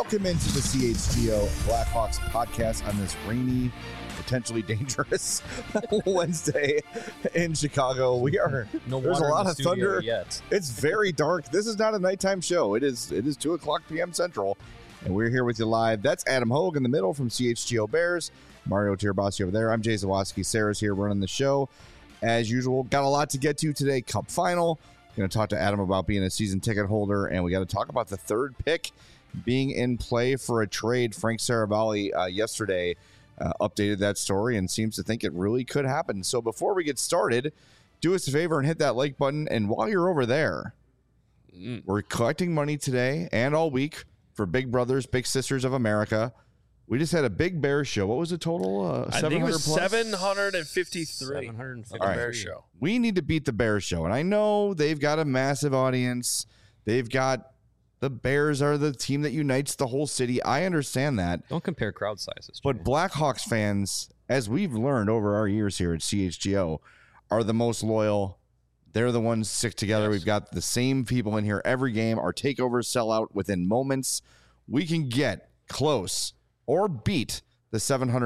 Welcome into the CHGO Blackhawks podcast on this rainy, potentially dangerous Wednesday in Chicago. There's a lot of thunder yet. It's very dark. This is not a nighttime show. It is 2:00 p.m. Central, and we're here with you live. That's Adam Hogue in the middle from CHGO Bears. Mario Tirabassi over there. I'm Jay Zawaski. Sarah's here running the show. As usual, got a lot to get to today. Cup final. Going to talk to Adam about being a season ticket holder, and we got to talk about the third pick being in play for a trade. Frank Saravalli yesterday updated that story and seems to think it really could happen. So before we get started, do us a favor and hit that like button. And while you're over there, we're collecting money today and all week for Big Brothers, Big Sisters of America. We just had a big bear show. What was the total? I think it was plus? 753. 753. All right. Bear show. We need to beat the Bears show. And I know they've got a massive audience. They've got the Bears are the team that unites the whole city. I understand that. Don't compare crowd sizes. But Blackhawks fans, as we've learned over our years here at CHGO, are the most loyal. They're the ones stick together. Yes. We've got the same people in here every game. Our takeovers sell out within moments. We can get close or beat the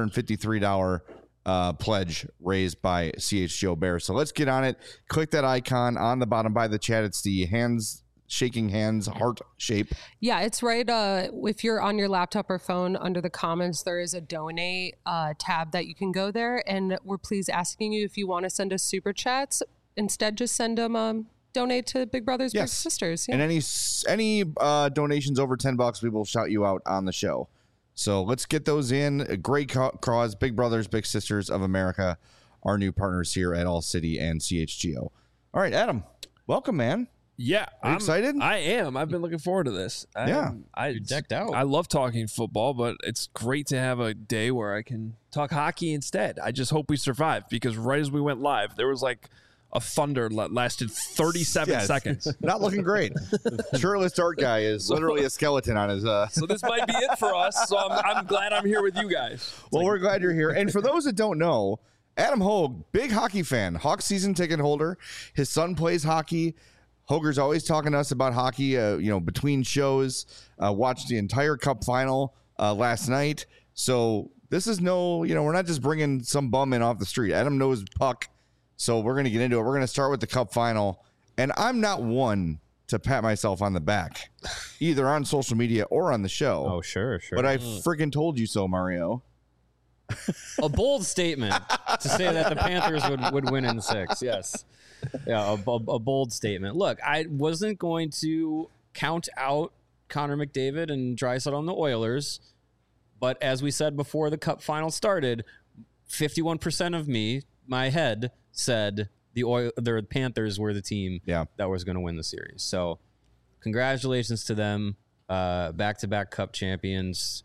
$753 pledge raised by CHGO Bears. So let's get on it. Click that icon on the bottom by the chat. It's the shaking hands heart shape. Yeah, it's right. If you're on your laptop or phone, under the comments, there is a donate tab that you can go there. And we're please asking you if you want to send us super chats. Instead, just send them donate to Big Brothers, Big Sisters. Yeah. And any donations over $10, we will shout you out on the show. So let's get those in. A great cause. Big Brothers, Big Sisters of America, our new partners here at All City and CHGO. All right, Adam, welcome, man. Yeah. Are you excited? I am. I've been looking forward to this. You're decked out. I love talking football, but it's great to have a day where I can talk hockey instead. I just hope we survive, because right as we went live, there was like a thunder that lasted 37 seconds. Not looking great. Shirtless dark guy is literally a skeleton on his... So this might be it for us. So I'm glad I'm here with you guys. Well, we're glad you're here. And for those that don't know, Adam Hogue, big hockey fan, Hawks season ticket holder. His son plays hockey. Hoger's always talking to us about hockey, between shows. Watched the entire Cup final last night. So this is we're not just bringing some bum in off the street. Adam knows puck. So we're going to get into it. We're going to start with the Cup final. And I'm not one to pat myself on the back, either on social media or on the show. Oh, sure. But I freaking told you so, Mario. A bold statement to say that the Panthers would win in 6. Yes. Yeah, a bold statement. Look, I wasn't going to count out Connor McDavid and Draisaitl on the Oilers. But as we said before the Cup final started, 51% of my head said the Panthers were the team that was going to win the series. So congratulations to them. Back-to-back Cup champions.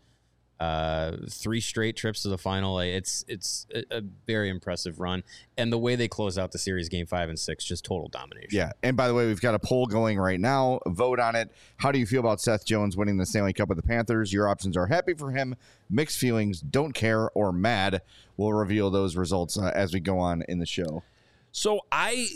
3 straight trips to the final. It's a very impressive run. And the way they close out the series, game 5 and 6, just total domination. Yeah. And by the way, we've got a poll going right now. Vote on it. How do you feel about Seth Jones winning the Stanley Cup with the Panthers? Your options are happy for him, mixed feelings, don't care, or mad. We'll reveal those results as we go on in the show. So I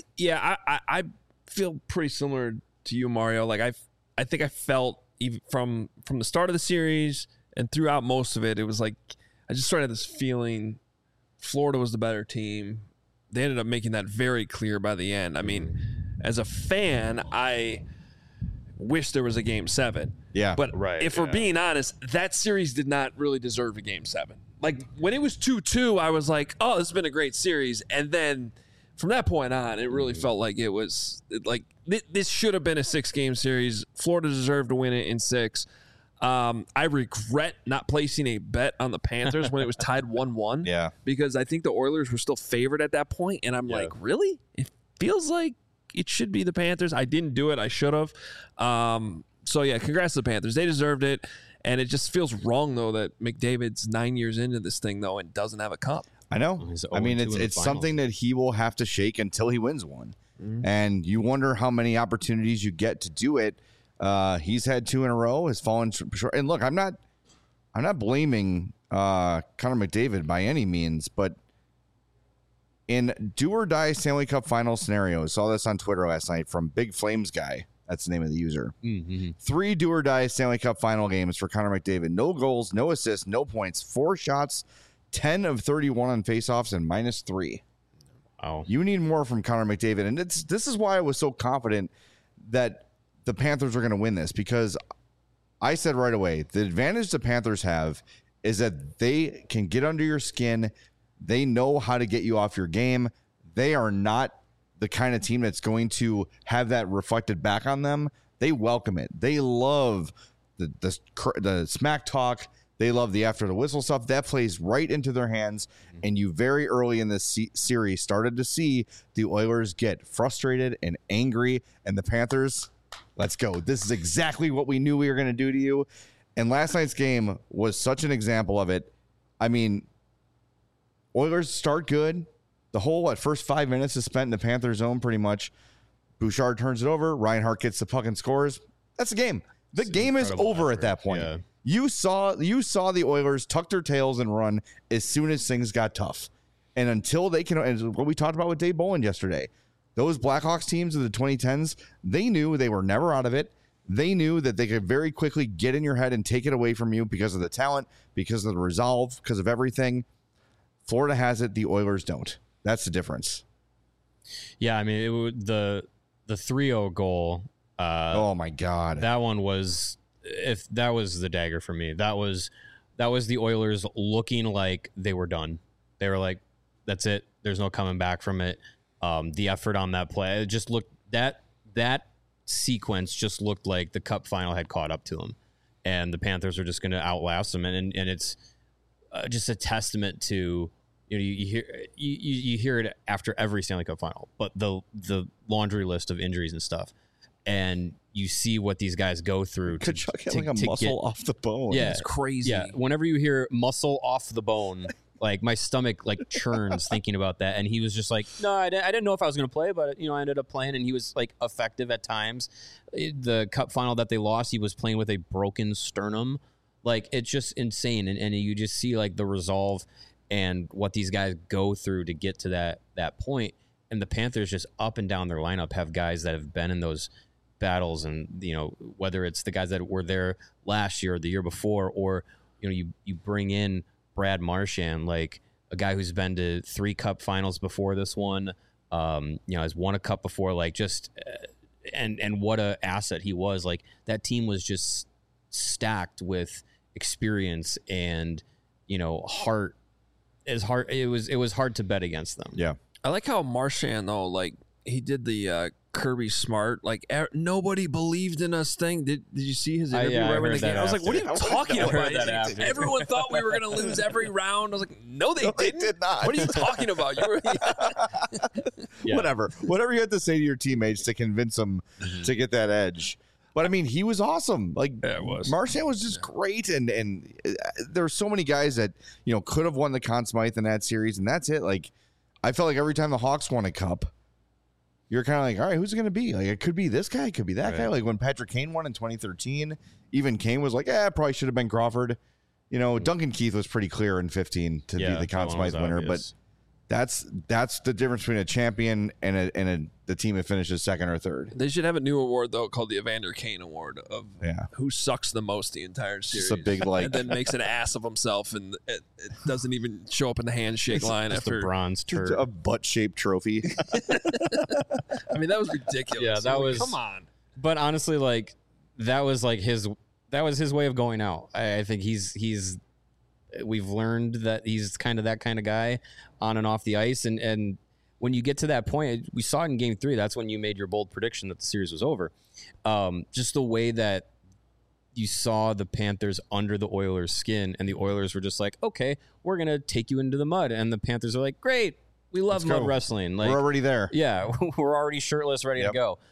feel pretty similar to you, Mario. Like I think I felt even from the start of the series and throughout most of it, it was like I just started this feeling Florida was the better team. They ended up making that very clear by the end. I mean, as a fan, I wish there was a game 7. Yeah. But if we're being honest, that series did not really deserve a game 7. Like when it was 2-2, I was like, oh, this has been a great series. And then from that point on, it really felt like it was like this should have been a 6-game series. Florida deserved to win it in 6. I regret not placing a bet on the Panthers when it was tied 1-1. Yeah. Because I think the Oilers were still favored at that point, and I'm like, really? It feels like it should be the Panthers. I didn't do it. I should have. So, yeah, congrats to the Panthers. They deserved it. And it just feels wrong, though, that McDavid's 9 years into this thing, though, and doesn't have a cup. I know. I mean, it's something that he will have to shake until he wins one. Mm-hmm. And you wonder how many opportunities you get to do it. He's had 2 in a row, has fallen short. And look, I'm not blaming Connor McDavid by any means, but in do or die Stanley Cup final scenarios, saw this on Twitter last night from Big Flames guy. That's the name of the user. Mm-hmm. 3 do or die Stanley Cup final games for Connor McDavid. No goals, no assists, no points, 4 shots, 10 of 31 on faceoffs, and -3. Wow. You need more from Connor McDavid. And this is why I was so confident that the Panthers are going to win this, because I said right away, the advantage the Panthers have is that they can get under your skin. They know how to get you off your game. They are not the kind of team that's going to have that reflected back on them. They welcome it. They love the smack talk. They love the after the whistle stuff. That plays right into their hands. And you very early in this series started to see the Oilers get frustrated and angry. And the Panthers, let's go. This is exactly what we knew we were going to do to you. And last night's game was such an example of it. I mean, Oilers start good. The whole first 5 minutes is spent in the Panthers zone pretty much. Bouchard turns it over. Reinhart gets the puck and scores. That's the game. The game is over at that point. Yeah. You saw the Oilers tuck their tails and run as soon as things got tough. And until they can, and what we talked about with Dave Bolin yesterday, those Blackhawks teams of the 2010s, they knew they were never out of it. They knew that they could very quickly get in your head and take it away from you because of the talent, because of the resolve, because of everything. Florida has it. The Oilers don't. That's the difference. Yeah, I mean, the 3-0 goal. Oh my God, that one was, if that was the dagger for me. That was the Oilers looking like they were done. They were like, that's it. There's no coming back from it. The effort on that play, it just looked, that sequence just looked like the Cup final had caught up to them, and the Panthers are just going to outlast them. And it's just a testament to, you hear it after every Stanley Cup final, but the laundry list of injuries and stuff, and you see what these guys go through. Kachuk had like a muscle off the bone. Yeah, It's crazy. Yeah, whenever you hear muscle off the bone, like my stomach like churns thinking about that. And he was just like, no, I didn't know if I was going to play, but I ended up playing, and he was like effective at times. The Cup final that they lost, he was playing with a broken sternum. Like, it's just insane, and you just see like the resolve and what these guys go through to get to that point. And the Panthers just up and down their lineup have guys that have been in those battles, and whether it's the guys that were there last year or the year before, or you bring in Brad Marchand, like a guy who's been to 3 Cup finals before this one, has won a Cup before, like just and what a asset he was. Like, that team was just stacked with experience and heart. It was hard to bet against them. Yeah. I like how Marchand, though, like, he did the Kirby Smart, like, nobody believed in us thing. Did you see his interview right when the game? I was like, what are you talking about? Everyone thought we were going to lose every round. I was like, no, they did not. What are you talking about? You were Yeah. Whatever you have to say to your teammates to convince them to get that edge. But I mean, he was awesome. Like, Yeah, it was. Marchand was just great, and there were so many guys that could have won the Conn Smythe in that series, and that's it. Like, I felt like every time the Hawks won a cup, you're kind of like, all right, who's it going to be? Like, it could be this guy, it could be that guy. Like when Patrick Kane won in 2013, even Kane was like, probably should have been Crawford. Duncan Keith was pretty clear in 15 to be the Conn Smythe winner, obvious. but that's the difference between a champion and the team that finishes second or third. They should have a new award, though, called the Evander Kane Award of Yeah. who sucks the most the entire series. Just a big, like, and then makes an ass of himself, and it doesn't even show up in the handshake line Just after. a bronze turd. a butt-shaped trophy. I mean, that was ridiculous. Yeah, that was. Come on. But honestly, like, that was his way of going out. I think we've learned that he's kind of that kind of guy on and off the ice. And when you get to that point, we saw it in Game 3. That's when you made your bold prediction that the series was over. Just the way that you saw the Panthers under the Oilers' skin, and the Oilers were just like, okay, we're going to take you into the mud. And the Panthers are like, great, we love mud wrestling. Like, We're already there. Yeah, we're already shirtless, ready to go.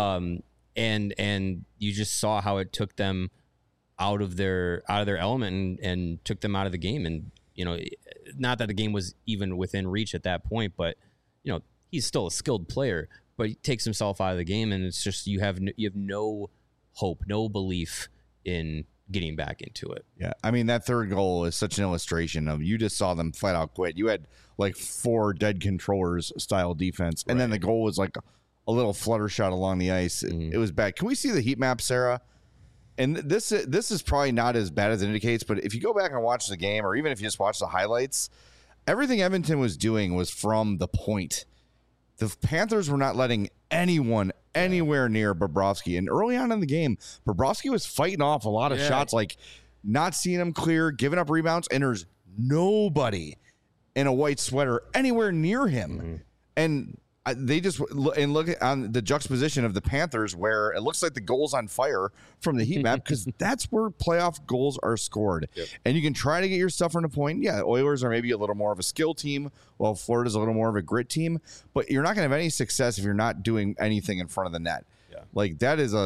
And you just saw how it took them out of their element and took them out of the game. And not that the game was even within reach at that point, but he's still a skilled player, but he takes himself out of the game, and it's just you have no hope, no belief in getting back into it. Yeah, I mean, that third goal is such an illustration of, you just saw them flat out quit. You had like 4 dead controllers style defense, and then the goal was like a little flutter shot along the ice. It was bad. Can we see the heat map, Sarah? And this is probably not as bad as it indicates, but if you go back and watch the game, or even if you just watch the highlights, everything Edmonton was doing was from the point. The Panthers were not letting anyone anywhere near Bobrovsky. And early on in the game, Bobrovsky was fighting off a lot of shots, like not seeing him clear, giving up rebounds, and there's nobody in a white sweater anywhere near him. And they just look on the juxtaposition of the Panthers, where it looks like the goal's on fire from the heat map, because that's where playoff goals are scored. And you can try to get your stuff from the point. Yeah, the Oilers are maybe a little more of a skill team, while Florida's a little more of a grit team. But you're not going to have any success if you're not doing anything in front of the net. Like that is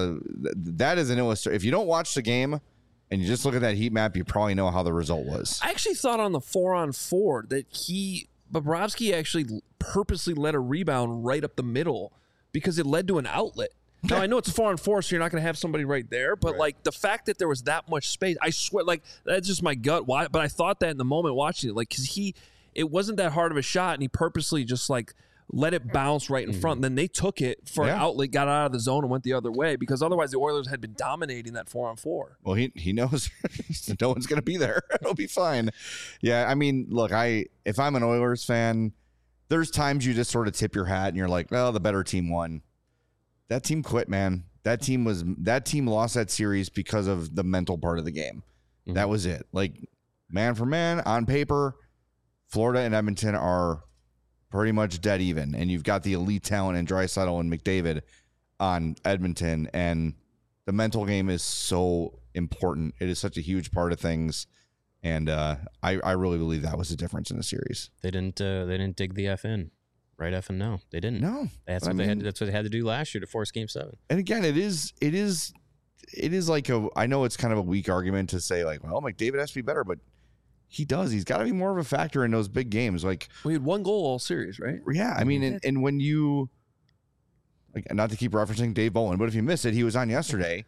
an illustration. If you don't watch the game and you just look at that heat map, you probably know how the result was. I actually thought on the 4-on-4 that Bobrovsky actually purposely let a rebound right up the middle because it led to an outlet. Now, I know it's a 4-on-4, so you're not going to have somebody right there, but like the fact that there was that much space, I swear, like that's just my gut. Why? But I thought that in the moment watching it, like, because it wasn't that hard of a shot, and he purposely just like let it bounce right in front. And then they took it for an outlet, got out of the zone, and went the other way, because otherwise the Oilers had been dominating that 4-on-4. Well, he knows no one's going to be there. It'll be fine. Yeah, I mean, look, if I'm an Oilers fan, there's times you just sort of tip your hat and you're like, well, the better team won. That team quit, man. That team lost that series because of the mental part of the game. That was it. Like, man for man, on paper, Florida and Edmonton are pretty much dead even, and you've got the elite talent in Draisaitl and McDavid on Edmonton, and the mental game is so important. It is such a huge part of things, and I really believe that was the difference in the series. They didn't dig the F in. Right F and no. They didn't. No. That's what that's what they had to do last year to force Game 7. And again, it is like I know it's kind of a weak argument to say like, well, McDavid has to be better, but he does. He's got to be more of a factor in those big games. Like, we had one goal all series, right? Yeah, I mean, and when you, like, not to keep referencing Dave Bolin, but if you miss it, he was on yesterday.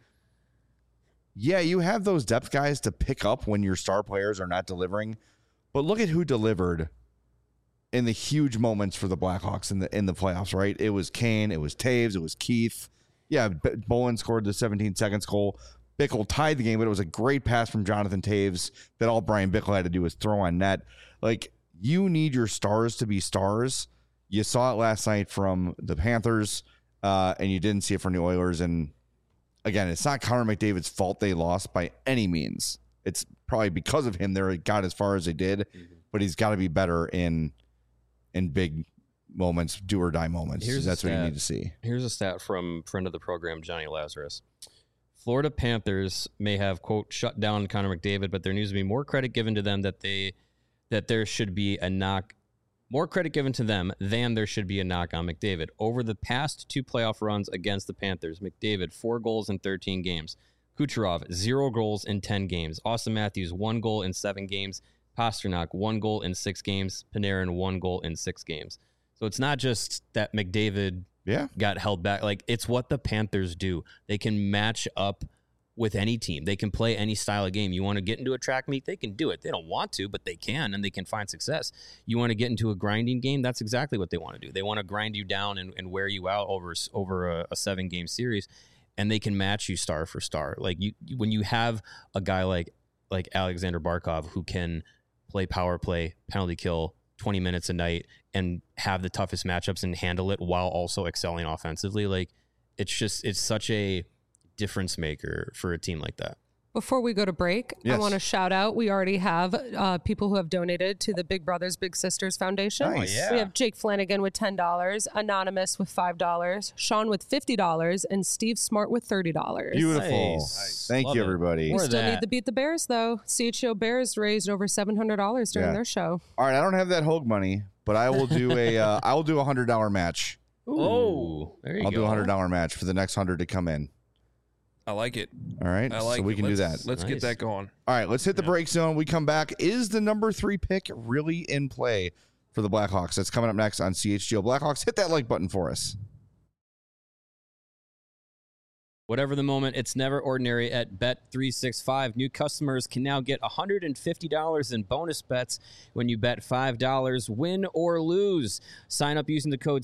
Yeah, you have those depth guys to pick up when your star players are not delivering, but look at who delivered in the huge moments for the Blackhawks in the playoffs. Right? It was Kane, it was Taves, it was Keith. Yeah, Bolin scored the 17 seconds goal. Bickle tied the game, but it was a great pass from Jonathan Taves that all Brian Bickle had to do was throw on net. Like, you need your stars to be stars. You saw it last night from the Panthers, and you didn't see it from the Oilers. And again, it's not Connor McDavid's fault they lost by any means. It's probably because of him they got as far as they did, but he's got to be better in big moments, do or die moments. That's what you need to see. Here's a stat from friend of the program, Johnny Lazarus. Florida Panthers may have, quote, shut down Connor McDavid, but there needs to be more credit given to them that there should be a knock, more credit given to them than there should be a knock on McDavid. Over the past 2 playoff runs against the Panthers, McDavid, 4 goals in 13 games. Kucherov, 0 goals in 10 games. Austin Matthews, 1 goal in 7 games. Pasternak, 1 goal in 6 games. Panarin, 1 goal in 6 games. So it's not just that McDavid got held back. Like, it's what the Panthers do. They can match up with any team. They can play any style of game. You want to get into a track meet, they can do it. They don't want to, but they can, and they can find success. You want to get into a grinding game, that's exactly what they want to do. They want to grind you down and wear you out over a 7-game series, and they can match you star for star. Like, when you have a guy like Alexander Barkov who can play power play, penalty kill, 20 minutes a night, and have the toughest matchups and handle it while also excelling offensively. Like, it's such a difference maker for a team like that. Before we go to break, I want to shout out, we already have people who have donated to the Big Brothers Big Sisters Foundation. Nice. Oh, yeah. We have Jake Flanagan with $10, Anonymous with $5, Sean with $50, and Steve Smart with $30. Beautiful. Nice. Thank you, everybody. We still need to beat the Bears, though. CHGO Bears raised over $700 during their show. All right, I don't have that Hogue money, but I will do I will do $100 match. Ooh, there you go. I'll do a $100 match for the next 100 to come in. I like it. All right, so we can do that. Let's get that going. All right, let's hit the break zone. We come back. Is the number 3 pick really in play for the Blackhawks? That's coming up next on CHGO Blackhawks. Hit that like button for us. Whatever the moment, it's never ordinary at Bet365. New customers can now get $150 in bonus bets when you bet $5, win or lose. Sign up using the code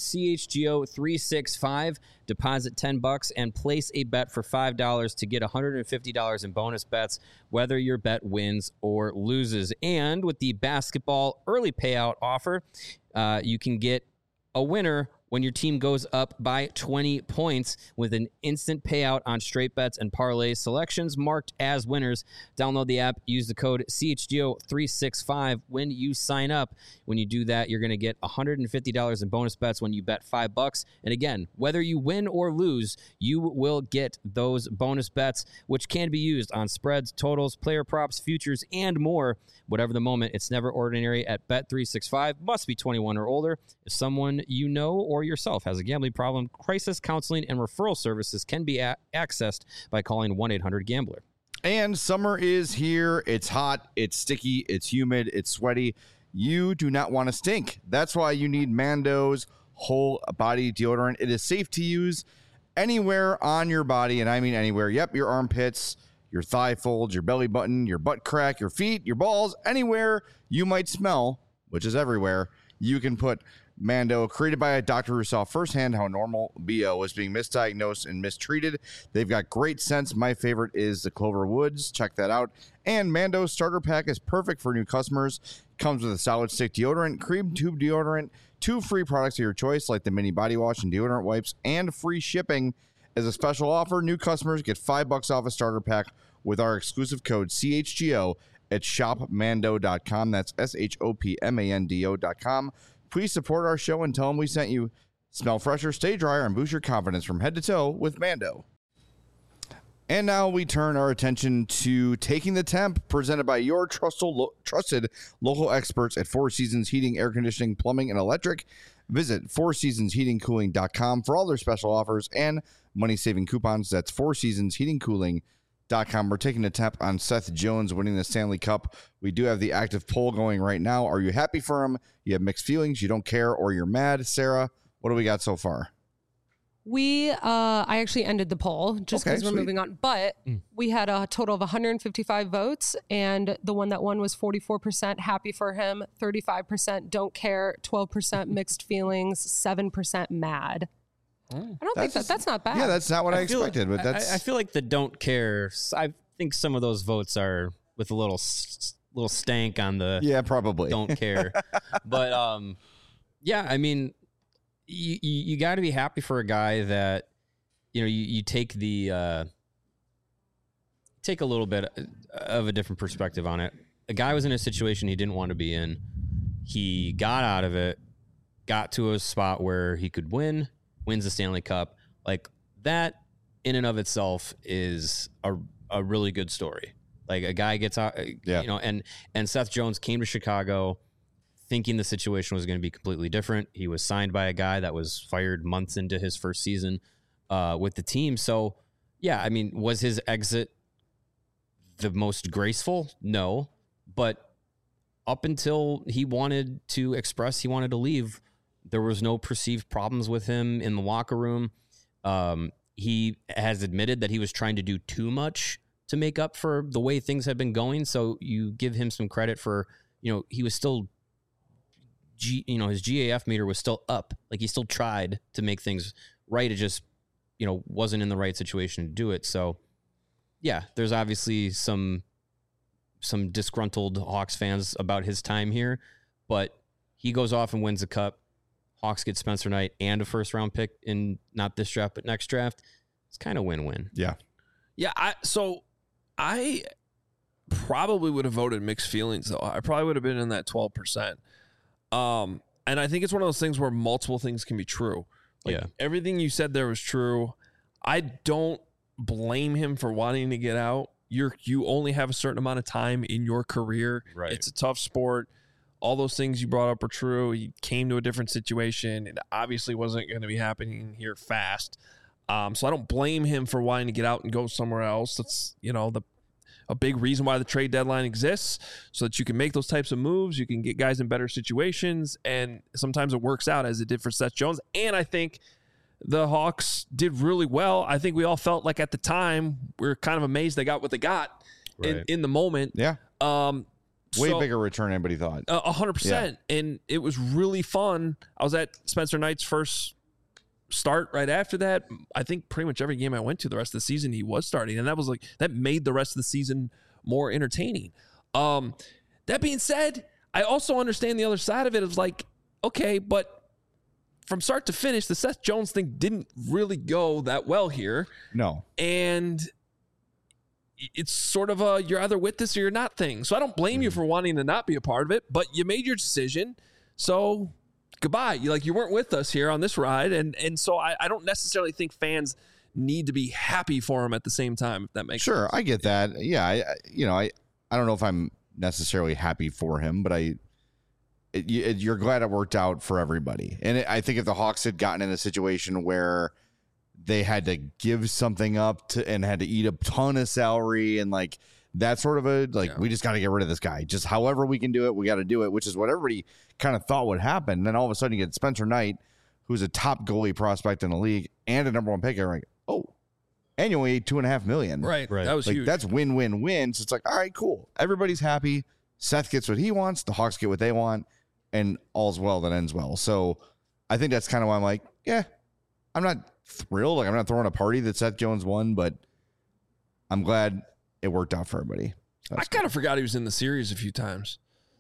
CHGO365, deposit $10, and place a bet for $5 to get $150 in bonus bets, whether your bet wins or loses. And with the basketball early payout offer, you can get a winner when your team goes up by 20 points with an instant payout on straight bets and parlay selections marked as winners. Download the app, use the code CHGO365 when you sign up. When you do that, you're going to get $150 in bonus bets when you bet $5. And again, whether you win or lose, you will get those bonus bets, which can be used on spreads, totals, player props, futures, and more. Whatever the moment, it's never ordinary at Bet365. Must be 21 or older. If someone you know or yourself has a gambling problem, crisis counseling and referral services can be accessed by calling 1-800-GAMBLER. And summer is here. It's hot, it's sticky, it's humid, it's sweaty. You do not want to stink. That's why you need Mando's whole body deodorant. It is safe to use anywhere on your body, and I mean anywhere. Yep, your armpits, your thigh folds, your belly button, your butt crack, your feet, your balls, anywhere you might smell, which is everywhere, you can put Mando. Created by a doctor who saw firsthand how normal BO was being misdiagnosed and mistreated. They've got great scents. My favorite is the Clover Woods. Check that out. And Mando's starter pack is perfect for new customers. Comes with a solid stick deodorant, cream tube deodorant, 2 free products of your choice like the mini body wash and deodorant wipes, and free shipping. As a special offer, new customers get $5 off a starter pack with our exclusive code CHGO at shopmando.com. That's SHOPMANDO.com. Please support our show and tell them we sent you. Smell fresher, stay drier, and boost your confidence from head to toe with Mando. And now we turn our attention to Taking the Temp, presented by your trusted local experts at Four Seasons Heating, Air Conditioning, Plumbing, and Electric. Visit fourseasonsheatingcooling.com for all their special offers and money-saving coupons. That's fourseasonsheatingcooling.com. We're taking a temp on Seth Jones winning the Stanley Cup. We do have the active poll going right now. Are you happy for him? You have mixed feelings, you don't care, or you're mad? Sarah, what do we got so far? I actually ended the poll just because we're moving on, but we had a total of 155 votes, and the one that won was 44% happy for him, 35% don't care, 12% mixed feelings, 7% mad. I don't think that's not bad. Yeah, that's not what I expected, but that's... I feel like the don't care, I think some of those votes are with a little stank on the... Yeah, probably. Don't care. But, yeah, I mean... You got to be happy for a guy that, you know, you take the take a little bit of a different perspective on it. A guy was in a situation he didn't want to be in. He got out of it, got to a spot where he could wins the Stanley Cup. Like that in and of itself is a really good story. Like a guy gets out, you know, and Seth Jones came to Chicago thinking the situation was going to be completely different. He was signed by a guy that was fired months into his first season with the team. So, yeah, I mean, was his exit the most graceful? No. But up until he wanted to express he wanted to leave, there was no perceived problems with him in the locker room. He has admitted that he was trying to do too much to make up for the way things had been going. So you give him some credit for, you know, he was still... his GAF meter was still up. Like he still tried to make things right. It just, you know, wasn't in the right situation to do it. So yeah, there's obviously some disgruntled Hawks fans about his time here, but he goes off and wins the cup. Hawks get Spencer Knight and a first round pick in not this draft, but next draft. It's kind of win-win. Yeah. Yeah. I probably would have voted mixed feelings though. I probably would have been in that 12%. And I think it's one of those things where multiple things can be true. Like everything you said there was true. I don't blame him for wanting to get out. You only have a certain amount of time in your career. Right. It's a tough sport. All those things you brought up are true. He came to a different situation. It obviously wasn't going to be happening here fast. So I don't blame him for wanting to get out and go somewhere else. That's, you know, a big reason why the trade deadline exists, so that you can make those types of moves. You can get guys in better situations, and sometimes it works out as it did for Seth Jones. And I think the Hawks did really well. I think we all felt like at the time we were kind of amazed they got what they got in the moment. Yeah. Way So- bigger return than anybody thought. 100%. And it was really fun. I was at Spencer Knight's first start right after that. I think pretty much every game I went to the rest of the season, he was starting. And that made the rest of the season more entertaining. That being said, I also understand the other side of it. It's like, okay, but from start to finish, the Seth Jones thing didn't really go that well here. No. And it's sort of a you're either with this or you're not thing. So I don't blame you for wanting to not be a part of it, but you made your decision. So goodbye. You weren't with us here on this ride. And so I don't necessarily think fans need to be happy for him at the same time, if that makes sense. Sure, I get that. Yeah, I don't know if I'm necessarily happy for him, but you're glad it worked out for everybody. And I think if the Hawks had gotten in a situation where they had to give something up and had to eat a ton of salary and like that sort of we just got to get rid of this guy. Just however we can do it, we got to do it, which is what everybody kind of thought would happen. And then all of a sudden you get Spencer Knight, who's a top goalie prospect in the league and a number one pick. You're like, oh, and you only ate $2.5 million. Right. That was huge. That's win-win-win. So it's like, all right, cool. Everybody's happy. Seth gets what he wants. The Hawks get what they want. And all's well that ends well. So I think that's kind of why I'm like, yeah, I'm not thrilled. Like, I'm not throwing a party that Seth Jones won, but I'm glad it worked out for everybody. I kind of forgot he was in the series a few times.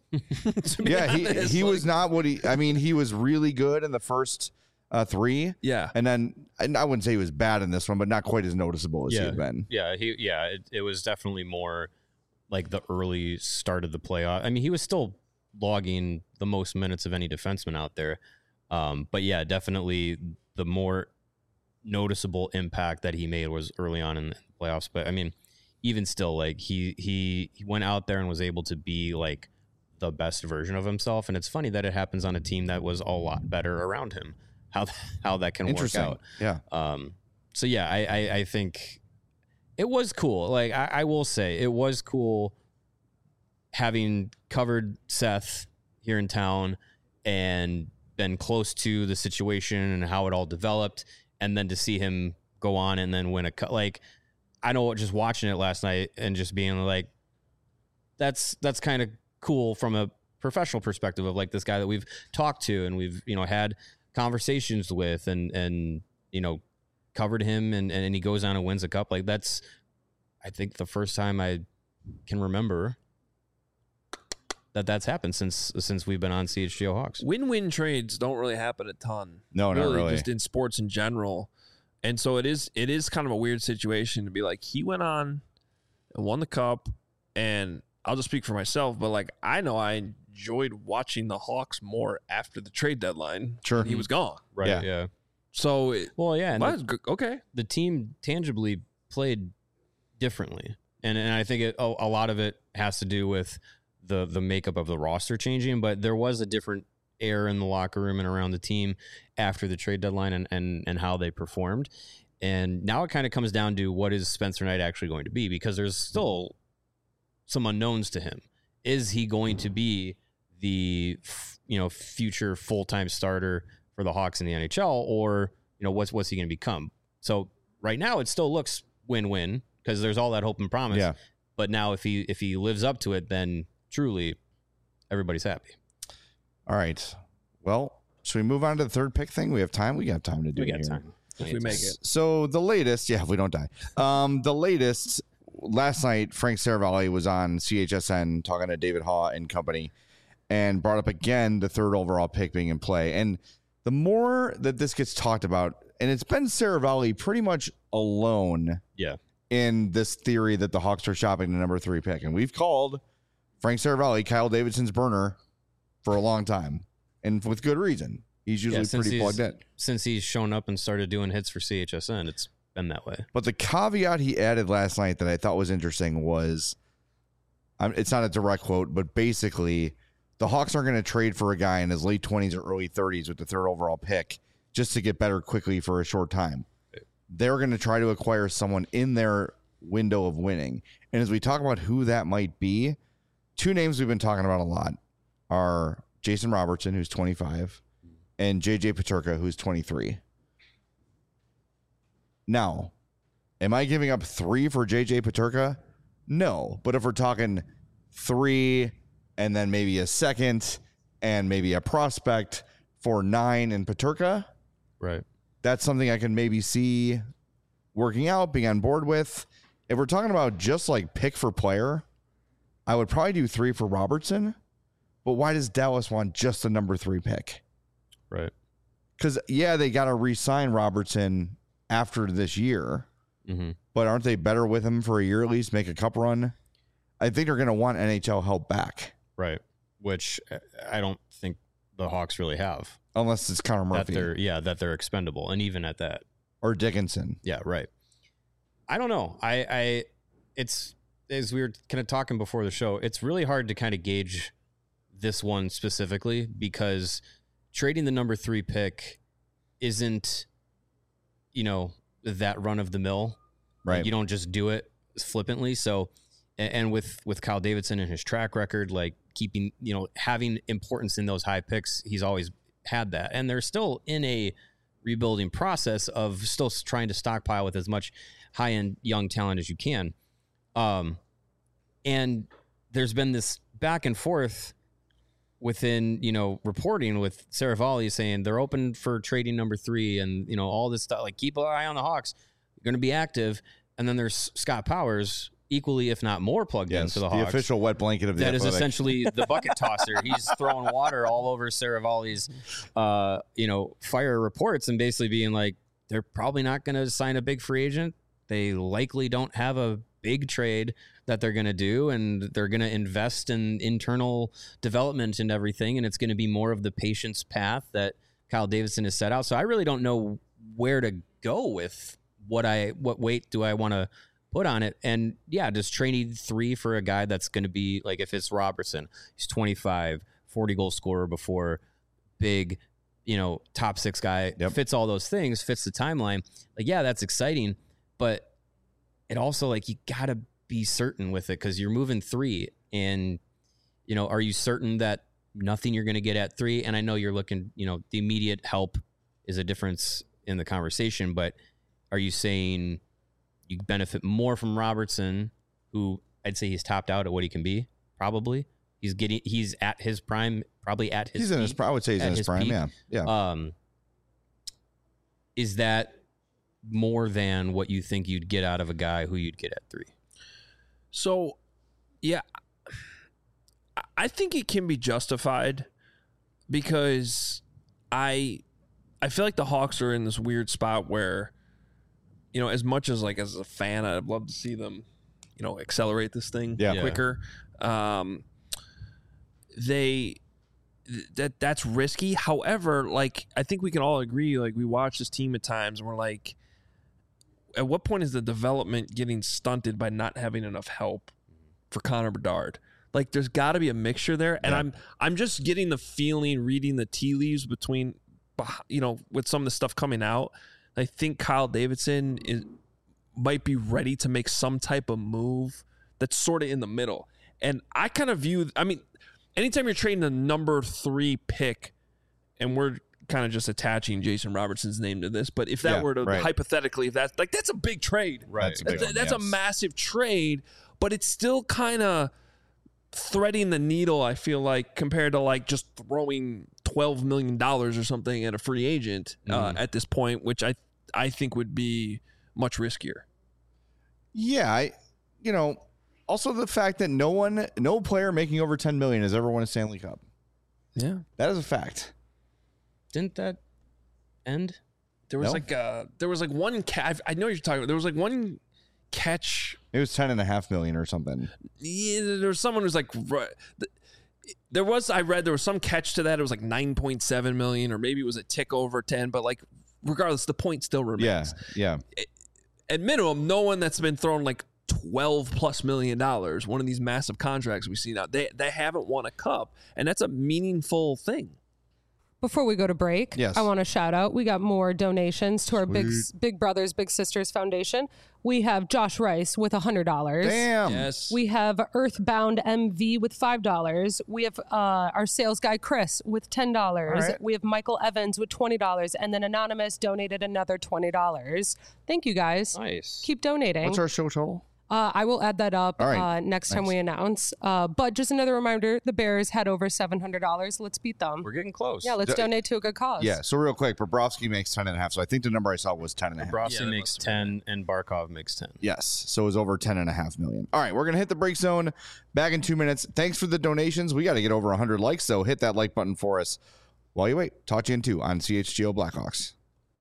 Yeah, he was not what he was really good in the first 3. Yeah. And I wouldn't say he was bad in this one, but not quite as noticeable as he had been. Yeah, it was definitely more like the early start of the playoff. I mean, he was still logging the most minutes of any defenseman out there. But yeah, definitely the more noticeable impact that he made was early on in the playoffs. But I mean, even still, like he went out there and was able to be like the best version of himself. And it's funny that it happens on a team that was a lot better around him. How that can work out. Yeah. So yeah, I think it was cool. Like I will say it was cool having covered Seth here in town and been close to the situation and how it all developed, and then to see him go on and then win a cut. Like, I know just watching it last night and just being like, that's kind of cool from a professional perspective of like this guy that we've talked to and we've, had conversations with and covered him and he goes on and wins a cup. Like, that's, I think, the first time I can remember that's happened since we've been on CHGO Hawks. Win-win trades don't really happen a ton. No, not really. Just in sports in general. And so it is kind of a weird situation to be like, he went on and won the cup, and I'll just speak for myself, but like, I know I enjoyed watching the Hawks more after the trade deadline. Sure. He was gone. Right. Yeah. So, and okay. The team tangibly played differently. And I think a lot of it has to do with the makeup of the roster changing, but there was a different air in the locker room and around the team after the trade deadline and how they performed. And now it kind of comes down to what is Spencer Knight actually going to be, because there's still some unknowns to him. Is he going to be the future full-time starter for the Hawks in the NHL, or what's he going to become? So right now it still looks win-win because there's all that hope and promise. Yeah. But now if he lives up to it, then truly everybody's happy. All right. Well, should we move on to the third pick thing? We have time. We got time to do it here. Time. If we make it. So the latest, if we don't die. The latest, last night, Frank Saravalli was on CHSN talking to David Haw and company and brought up again the third overall pick being in play. And the more that this gets talked about, and it's been Saravalli pretty much alone in this theory that the Hawks are shopping the number 3 pick. And we've called Frank Saravalli Kyle Davidson's burner for a long time, and with good reason. He's usually pretty plugged in. Since he's shown up and started doing hits for CHSN, it's been that way. But the caveat he added last night that I thought was interesting was, it's not a direct quote, but basically, the Hawks aren't going to trade for a guy in his late 20s or early 30s with the third overall pick just to get better quickly for a short time. They're going to try to acquire someone in their window of winning. And as we talk about who that might be, 2 names we've been talking about a lot are Jason Robertson, who's 25, and JJ Peterka, who's 23. Now, am I giving up 3 for JJ Peterka? No. But if we're talking 3 and then maybe a second and maybe a prospect for 9 in Peterka, Right. that's something I can maybe see working out, being on board with. If we're talking about just like pick for player, I would probably do 3 for Robertson. But why does Dallas want just the number 3 pick? Right. Because, yeah, they got to re-sign Robertson after this year. Mm-hmm. But aren't they better with him for a year at least, make a cup run? I think they're going to want NHL help back. Right. Which I don't think the Hawks really have. Unless it's Connor Murphy. That they're expendable. And even at that. Or Dickinson. Yeah, right. I don't know. It's, as we were kind of talking before the show, it's really hard to kind of gauge this one specifically because trading the number 3 pick isn't, that run of the mill. Right. Like, you don't just do it flippantly. So, and with Kyle Davidson and his track record, like keeping, having importance in those high picks, he's always had that. And they're still in a rebuilding process of still trying to stockpile with as much high-end young talent as you can. And there's been this back and forth within, reporting with Saravalli saying they're open for trading number 3 and, all this stuff, like keep an eye on the Hawks. They're going to be active. And then there's Scott Powers, equally, if not more, plugged into the Hawks. The official wet blanket of the That Athletic. is essentially the bucket tosser. He's throwing water all over Saravalli's, fire reports and basically being like, they're probably not going to sign a big free agent. They likely don't have a big trade that they're going to do, and they're going to invest in internal development and everything, and it's going to be more of the patience path that Kyle Davidson has set out. So I really don't know where to go with what weight do I want to put on it. And yeah, just trading 3 for a guy that's going to be like, if it's Robertson, he's 25, 40 goal scorer before, big, top 6 guy, fits all those things, fits the timeline. Like, yeah, that's exciting, but it also, like, you got to be certain with it because you're moving 3 and, are you certain that nothing you're going to get at 3? And I know you're looking, the immediate help is a difference in the conversation, but are you saying you benefit more from Robertson, who I'd say he's topped out at what he can be? Probably. He's at his prime, probably at his He's in his prime. I would say he's in his prime, peak. yeah. Is that more than what you think you'd get out of a guy who you'd get at 3? So, yeah, I think it can be justified because I feel like the Hawks are in this weird spot where, as much as like as a fan, I'd love to see them, accelerate this thing quicker. That's risky. However, like, I think we can all agree, like, we watch this team at times and we're like, at what point is the development getting stunted by not having enough help for Connor Bedard? Like, there's got to be a mixture there. And I'm just getting the feeling, reading the tea leaves between, with some of the stuff coming out, I think Kyle Davidson might be ready to make some type of move that's sort of in the middle. And I kind of view, anytime you're trading a number 3 pick, and we're kind of just attaching Jason Robertson's name to this, but if that were to hypothetically, if that's like, that's a big trade. Right. That's a massive trade, but it's still kind of threading the needle, I feel like, compared to like just throwing $12 million or something at a free agent at this point, which I think would be much riskier. Yeah, also the fact that no player making over $10 million has ever won a Stanley Cup. Yeah, that is a fact. Didn't that end? There was one catch. I know what you're talking about. There was like one catch. It was $10.5 million or something. Yeah, there was someone who's like, I read there was some catch to that. It was like 9.7 million, or maybe it was a tick over 10. But like, regardless, the point still remains. Yeah. At minimum, no one that's been thrown like $12+ million, one of these massive contracts we see now, they haven't won a cup, and that's a meaningful thing. Before we go to break, Yes. I want to shout out. We got more donations to our Big Brothers Big Sisters Foundation. We have Josh Rice with $100. Damn. Yes. We have Earthbound MV with $5. We have our sales guy Chris with $10. right. We have Michael Evans with $20, and then Anonymous donated another $20. Thank you guys. Nice. Keep donating. What's our show total? I will add that up All right. next time Thanks. we announce. But just another reminder: the Bears had over $700. Let's beat them. We're getting close. Yeah, let's donate to a good cause. Yeah. So real quick, Bobrovsky makes 10.5. So I think the number I saw was 10.5. Brosky makes 10 and Barkov makes 10. Yes. So it was over 10.5 million. All right. We're going to hit the break zone back in 2 minutes. Thanks for the donations. We got to get over 100 likes. So hit that like button for us while you wait. Talk to you in 2 on CHGO Blackhawks.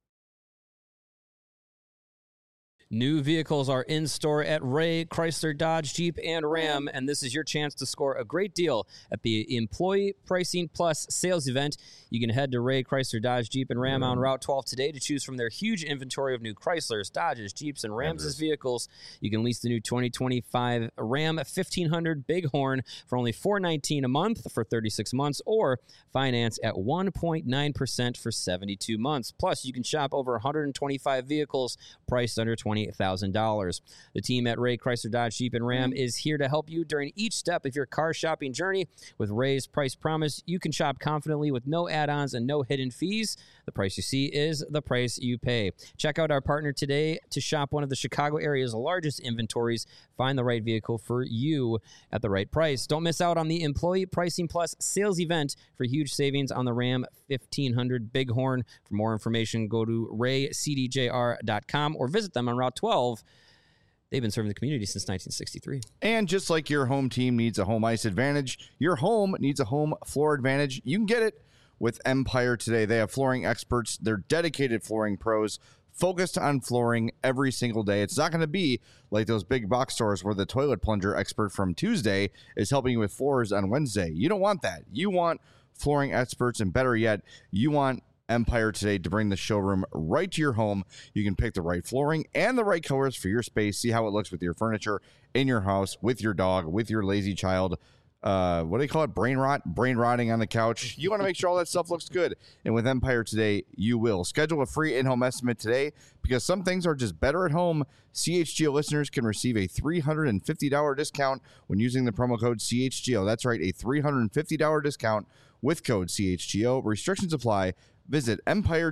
New vehicles are in store at Ray, Chrysler, Dodge, Jeep, and Ram, and this is your chance to score a great deal at the Employee Pricing Plus sales event. You can head to Ray, Chrysler, Dodge, Jeep, and Ram on Route 12 today to choose from their huge inventory of new Chryslers, Dodges, Jeeps, and Rams' vehicles. You can lease the new 2025 Ram 1500 Bighorn for only $419 a month for 36 months, or finance at 1.9% for 72 months. Plus, you can shop over 125 vehicles priced under $28,000. The team at Ray, Chrysler, Dodge, Jeep, and Ram is here to help you during each step of your car shopping journey. With Ray's Price Promise, you can shop confidently with no add-ons and no hidden fees. The price you see is the price you pay. Check out our partner today to shop one of the Chicago area's largest inventories. Find the right vehicle for you at the right price. Don't miss out on the Employee Pricing Plus sales event for huge savings on the Ram 1500 Bighorn. For more information, go to raycdjr.com or visit them on Route 12. They've been serving the community since 1963. And just like your home team needs a home ice advantage, your home needs a home floor advantage. You can get it with Empire today. They have flooring experts. They're dedicated flooring pros focused on flooring every single day. It's not going to be like those big box stores where the toilet plunger expert from Tuesday is helping you with floors on Wednesday. You don't want that. You want flooring experts, and better yet, you want Empire today to bring the showroom right to your home. You can pick the right flooring and the right colors for your space. See how it looks with your furniture in your house, with your dog, with your lazy child. What do they call it? Brain rotting on the couch. You want to make sure all that stuff looks good. And with Empire today, you will. Schedule a free in-home estimate today because some things are just better at home. CHGO listeners can receive a $350 discount when using the promo code CHGO. That's right, a $350 discount with code CHGO. Restrictions apply. Visit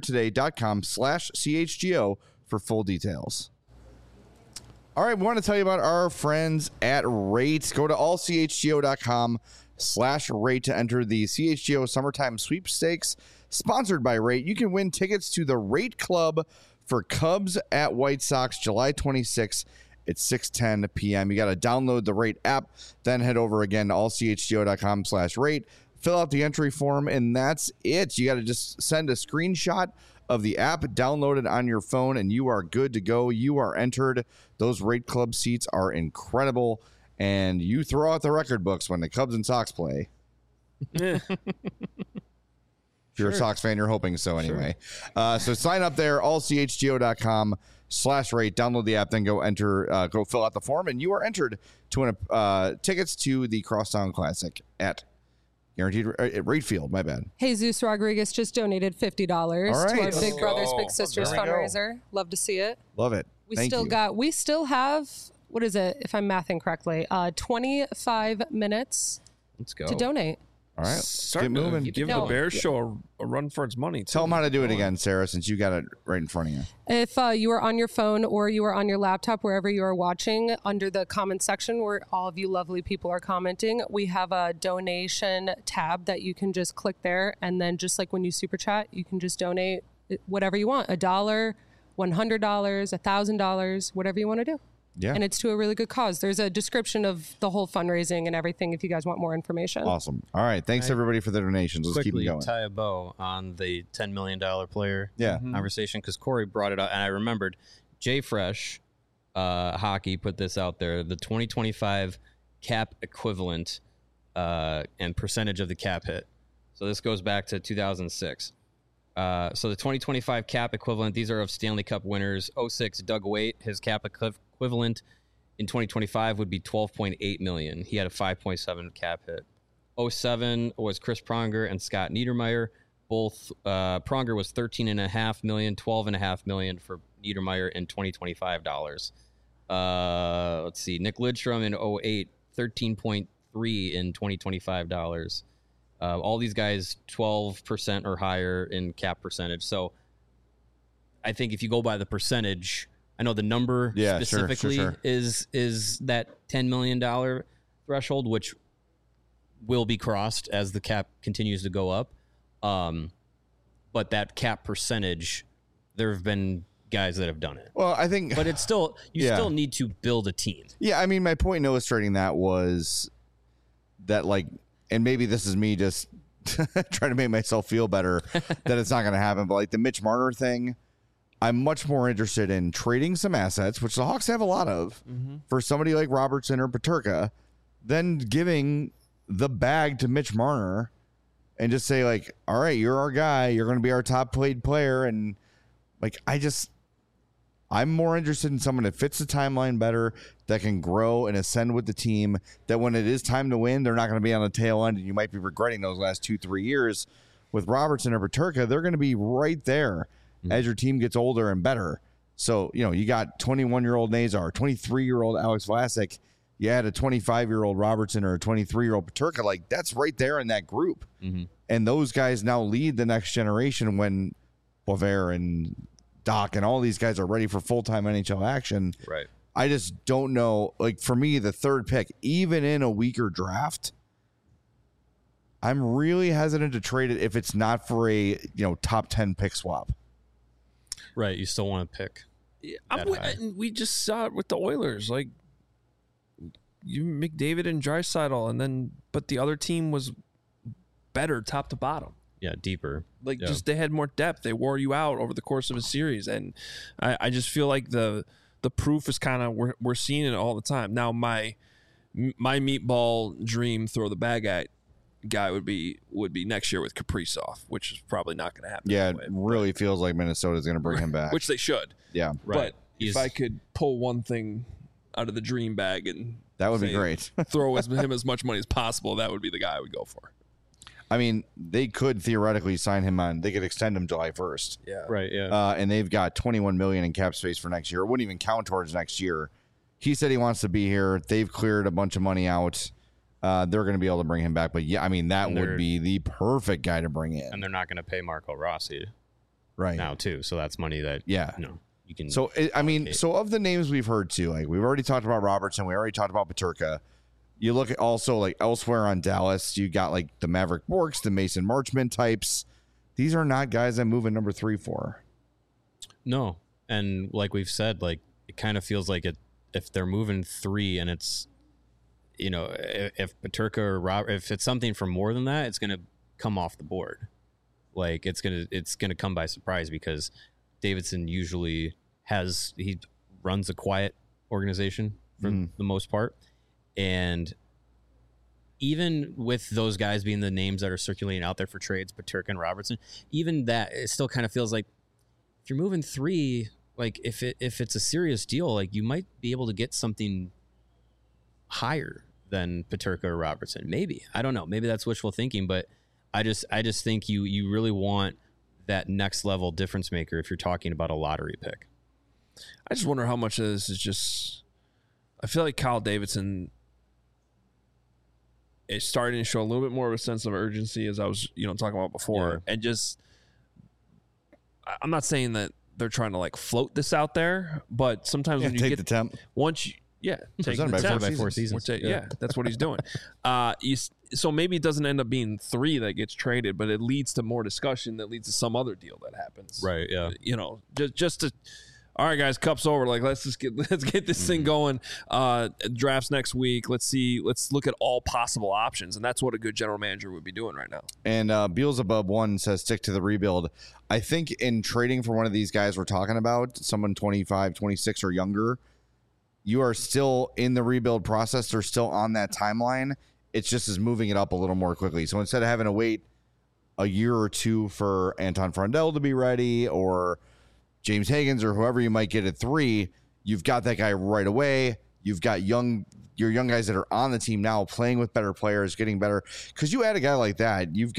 empiretoday.com/CHGO for full details. All right, we want to tell you about our friends at Rate. Go to allchgo.com/rate to enter the CHGO Summertime Sweepstakes, sponsored by Rate. You can win tickets to the Rate Club for Cubs at White Sox, July 26th at 6:10 p.m. You got to download the Rate app, then head over again to allchgo.com/rate, fill out the entry form, and that's it. You got to just send a screenshot of the app, download it on your phone, and you are good to go. You are entered. Those Rate Club seats are incredible, and you throw out the record books when the Cubs and Sox play. If you're a Sox fan, you're hoping so anyway. So sign up there, allchgo.com/rate, download the app, then go fill out the form, and you are entered to win tickets to the Crosstown Classic at Guaranteed at Rate Field. My bad. Jesus Rodriguez just donated $50 All to our right. Big Brothers Big Oh, Sisters there we go. fundraiser. Love to see it. Love it. We Thank you. still have, what is it, if I'm mathing correctly, 25 minutes Let's go. to donate. All right, Starting get to moving. give No. the Bears show a run for its money. Tell them how to do it again, Sarah, since you got it right in front of you. If you are on your phone or you are on your laptop, wherever you are watching, under the comment section where all of you lovely people are commenting, we have a donation tab that you can just click there. And then just like when you super chat, you can just donate whatever you want, $1, $100, $1,000, whatever you want to do. Yeah. And it's to a really good cause. There's a description of the whole fundraising and everything if you guys want more information. Awesome. All right. Thanks, everybody, for the donations. Let's keep Quickly them going. tie a bow on the $10 million player Yeah. conversation because Corey brought it up and I remembered Jay Fresh Hockey put this out there, the 2025 cap equivalent and percentage of the cap hit. So this goes back to 2006. So the 2025 cap equivalent, these are of Stanley Cup winners. 06, Doug Waite, his cap equivalent in 2025 would be $12.8 million. He had a 5.7 cap hit. 07 was Chris Pronger and Scott Niedermeyer. both Pronger was $13.5 million, $12.5 million for Niedermeyer in 2025 dollars. Let's see, Nick Lidstrom in 08, 13.3 in 2025 dollars. All these guys 12% or higher in cap percentage. So I think if you go by the percentage, I know the number specifically sure. is that $10 million threshold, which will be crossed as the cap continues to go up. But that cap percentage, there have been guys that have done it. Well, I think, but it's still, you still need to build a team. Yeah, I mean, my point in illustrating that was that, like, and maybe this is me just trying to make myself feel better that it's not going to happen, but like the Mitch Marner thing, I'm much more interested in trading some assets, which the Hawks have a lot of, for somebody like Robertson or Peterka, than giving the bag to Mitch Marner and just say, like, all right, you're our guy, you're going to be our top paid player. And like, I'm more interested in someone that fits the timeline better, that can grow and ascend with the team, that when it is time to win, they're not going to be on the tail end and you might be regretting those last 2-3 years. With Robertson or Peterka, they're going to be right there as your team gets older and better. So, you know, you got 21-year-old Nazar, 23-year-old Alex Vlasic, you had a 25-year-old Robertson or a 23-year-old Peterka. Like, that's right there in that group. And those guys now lead the next generation when Boisvert and Doc and all these guys are ready for full-time NHL action. Right. I just don't know. Like, for me, the third pick, even in a weaker draft, I'm really hesitant to trade it if it's not for a, top 10 pick swap. Right. You still want to pick. We just saw it with the Oilers. Like, you McDavid and Draisaitl, but the other team was better top to bottom. Yeah, deeper. Like, just they had more depth. They wore you out over the course of a series, and I just feel like the proof is kind of we're seeing it all the time. Now, my meatball dream throw the bag at guy would be next year with Kaprizov, which is probably not going to happen. Yeah, anyway, it really feels like Minnesota's going to bring him back, which they should. Yeah, right. But if I could pull one thing out of the dream bag and that would be great. throw him as much money as possible, that would be the guy I would go for. I mean, they could theoretically sign him on. They could extend him July 1st. Yeah. Right. Yeah. And they've got $21 million in cap space for next year. It wouldn't even count towards next year. He said he wants to be here. They've cleared a bunch of money out. They're going to be able to bring him back. But yeah, I mean, that would be the perfect guy to bring in. And they're not going to pay Marco Rossi right now too. So that's money that you can. So so of the names we've heard too, like we've already talked about Robertson, we already talked about Peterka. You look at also like elsewhere on Dallas, you got like the Maverick Borks, the Mason Marchment types. These are not guys I'm moving number 3 for. No. And like we've said, like it kind of feels like if they're moving 3 and it's, if Peterka or Robert, if it's something for more than that, it's going to come off the board. Like it's going to come by surprise because Davidson usually he runs a quiet organization for the most part. And even with those guys being the names that are circulating out there for trades, Peterka and Robertson, even that, it still kind of feels like if you're moving 3, like if it's a serious deal, like you might be able to get something higher than Peterka or Robertson. Maybe. I don't know. Maybe that's wishful thinking, but I just think you really want that next level difference maker if you're talking about a lottery pick. I just wonder how much of this is just, I feel like Kyle Davidson is starting to show a little bit more of a sense of urgency, as I was, talking about before. And just, I'm not saying that they're trying to like float this out there, but sometimes when you take get the temp, once you, take the temp by 4 seasons. That's what he's doing. So maybe it doesn't end up being 3 that gets traded, but it leads to more discussion that leads to some other deal that happens. Right. Yeah. Just to, all right, guys, cup's over. Like, let's get this thing going. Drafts next week. Let's look at all possible options, and that's what a good general manager would be doing right now. And Beelzebub 1 says stick to the rebuild. I think in trading for one of these guys we're talking about, someone 25, 26 or younger, you are still in the rebuild process. They're still on that timeline. It's just is moving it up a little more quickly. So instead of having to wait a year or 2 for Anton Frondell to be ready or James Higgins or whoever you might get at 3, you've got that guy right away. You've got your young guys that are on the team now playing with better players, getting better. Because you add a guy like that, you've got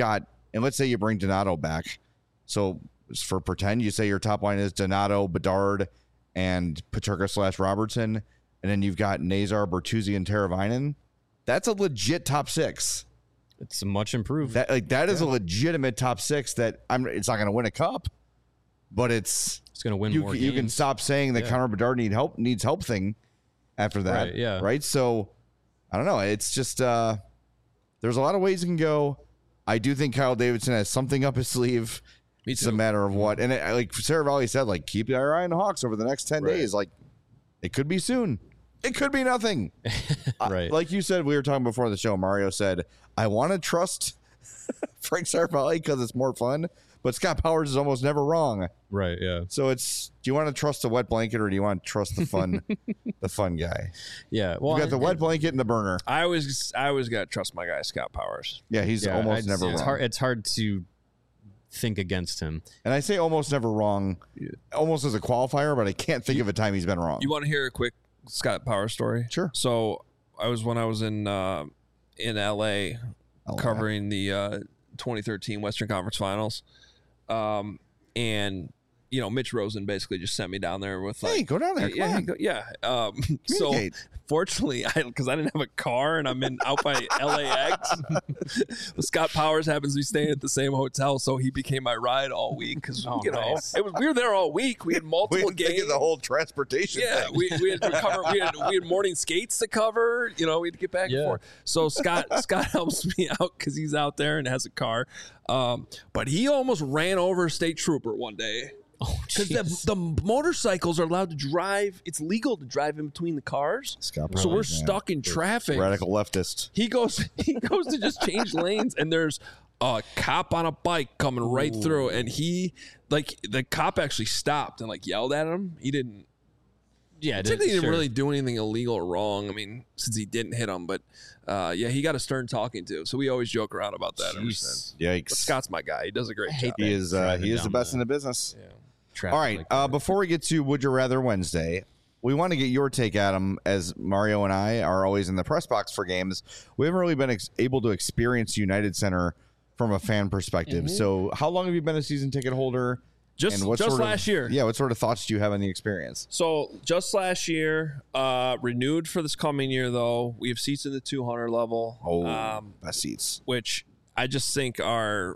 and let's say you bring Donato back. So for pretend, you say your top line is Donato, Bedard, and Peterka/Robertson, and then you've got Nazar, Bertuzzi, and Teravainen. That's a legit top six. It's much improved. That is a legitimate top six. It's not going to win a cup, but it's going to win more games. You can stop saying that Connor Bedard needs help thing after that. Right, yeah. Right. So I don't know. It's just there's a lot of ways it can go. I do think Kyle Davidson has something up his sleeve. It's a matter of what. And like Saravalli said, like, keep your eye on the Hawks over the next 10 days. Like, it could be soon. It could be nothing. Right. Like you said, we were talking before the show. Mario said, I want to trust Frank Saravalli because it's more fun. But Scott Powers is almost never wrong. Right, yeah. So it's, do you want to trust the wet blanket or do you want to trust the fun the fun guy? Yeah. Well, You got the wet blanket and the burner. I always got to trust my guy, Scott Powers. Yeah, he's almost never wrong. It's hard to think against him. And I say almost never wrong, almost as a qualifier, but I can't think of a time he's been wrong. You want to hear a quick Scott Powers story? Sure. So when I was in LA covering the 2013 Western Conference Finals, and Mitch Rosen basically just sent me down there with like, hey, go down there. Come on. So fortunately, because I didn't have a car and I'm out by LAX, Scott Powers happens to be staying at the same hotel, so he became my ride all week because nice. we were there all week. We had multiple games. The whole transportation. Yeah, thing. we had to cover. We had morning skates to cover. We had to get back and forth. So Scott helps me out because he's out there and has a car. But he almost ran over a state trooper one day. Because the motorcycles are allowed to drive. It's legal to drive in between the cars. So we're stuck in traffic. Radical leftist. He goes to just change lanes, and there's a cop on a bike coming right through, and the cop actually stopped and yelled at him. He didn't. Yeah, he didn't really do anything illegal or wrong. I mean, since he didn't hit him, but he got a stern talking to. So we always joke around about that. Yikes! But Scott's my guy. He does a great job. He is the best in the business. Yeah. All right. Before we get to Would You Rather Wednesday, we want to get your take, Adam, as Mario and I are always in the press box for games. We haven't really been able to experience United Center from a fan perspective. Mm-hmm. So how long have you been a season ticket holder? Just last year. Yeah. What sort of thoughts do you have on the experience? So just last year, renewed for this coming year, though. We have seats in the 200 level. Oh, best seats. Which I just think are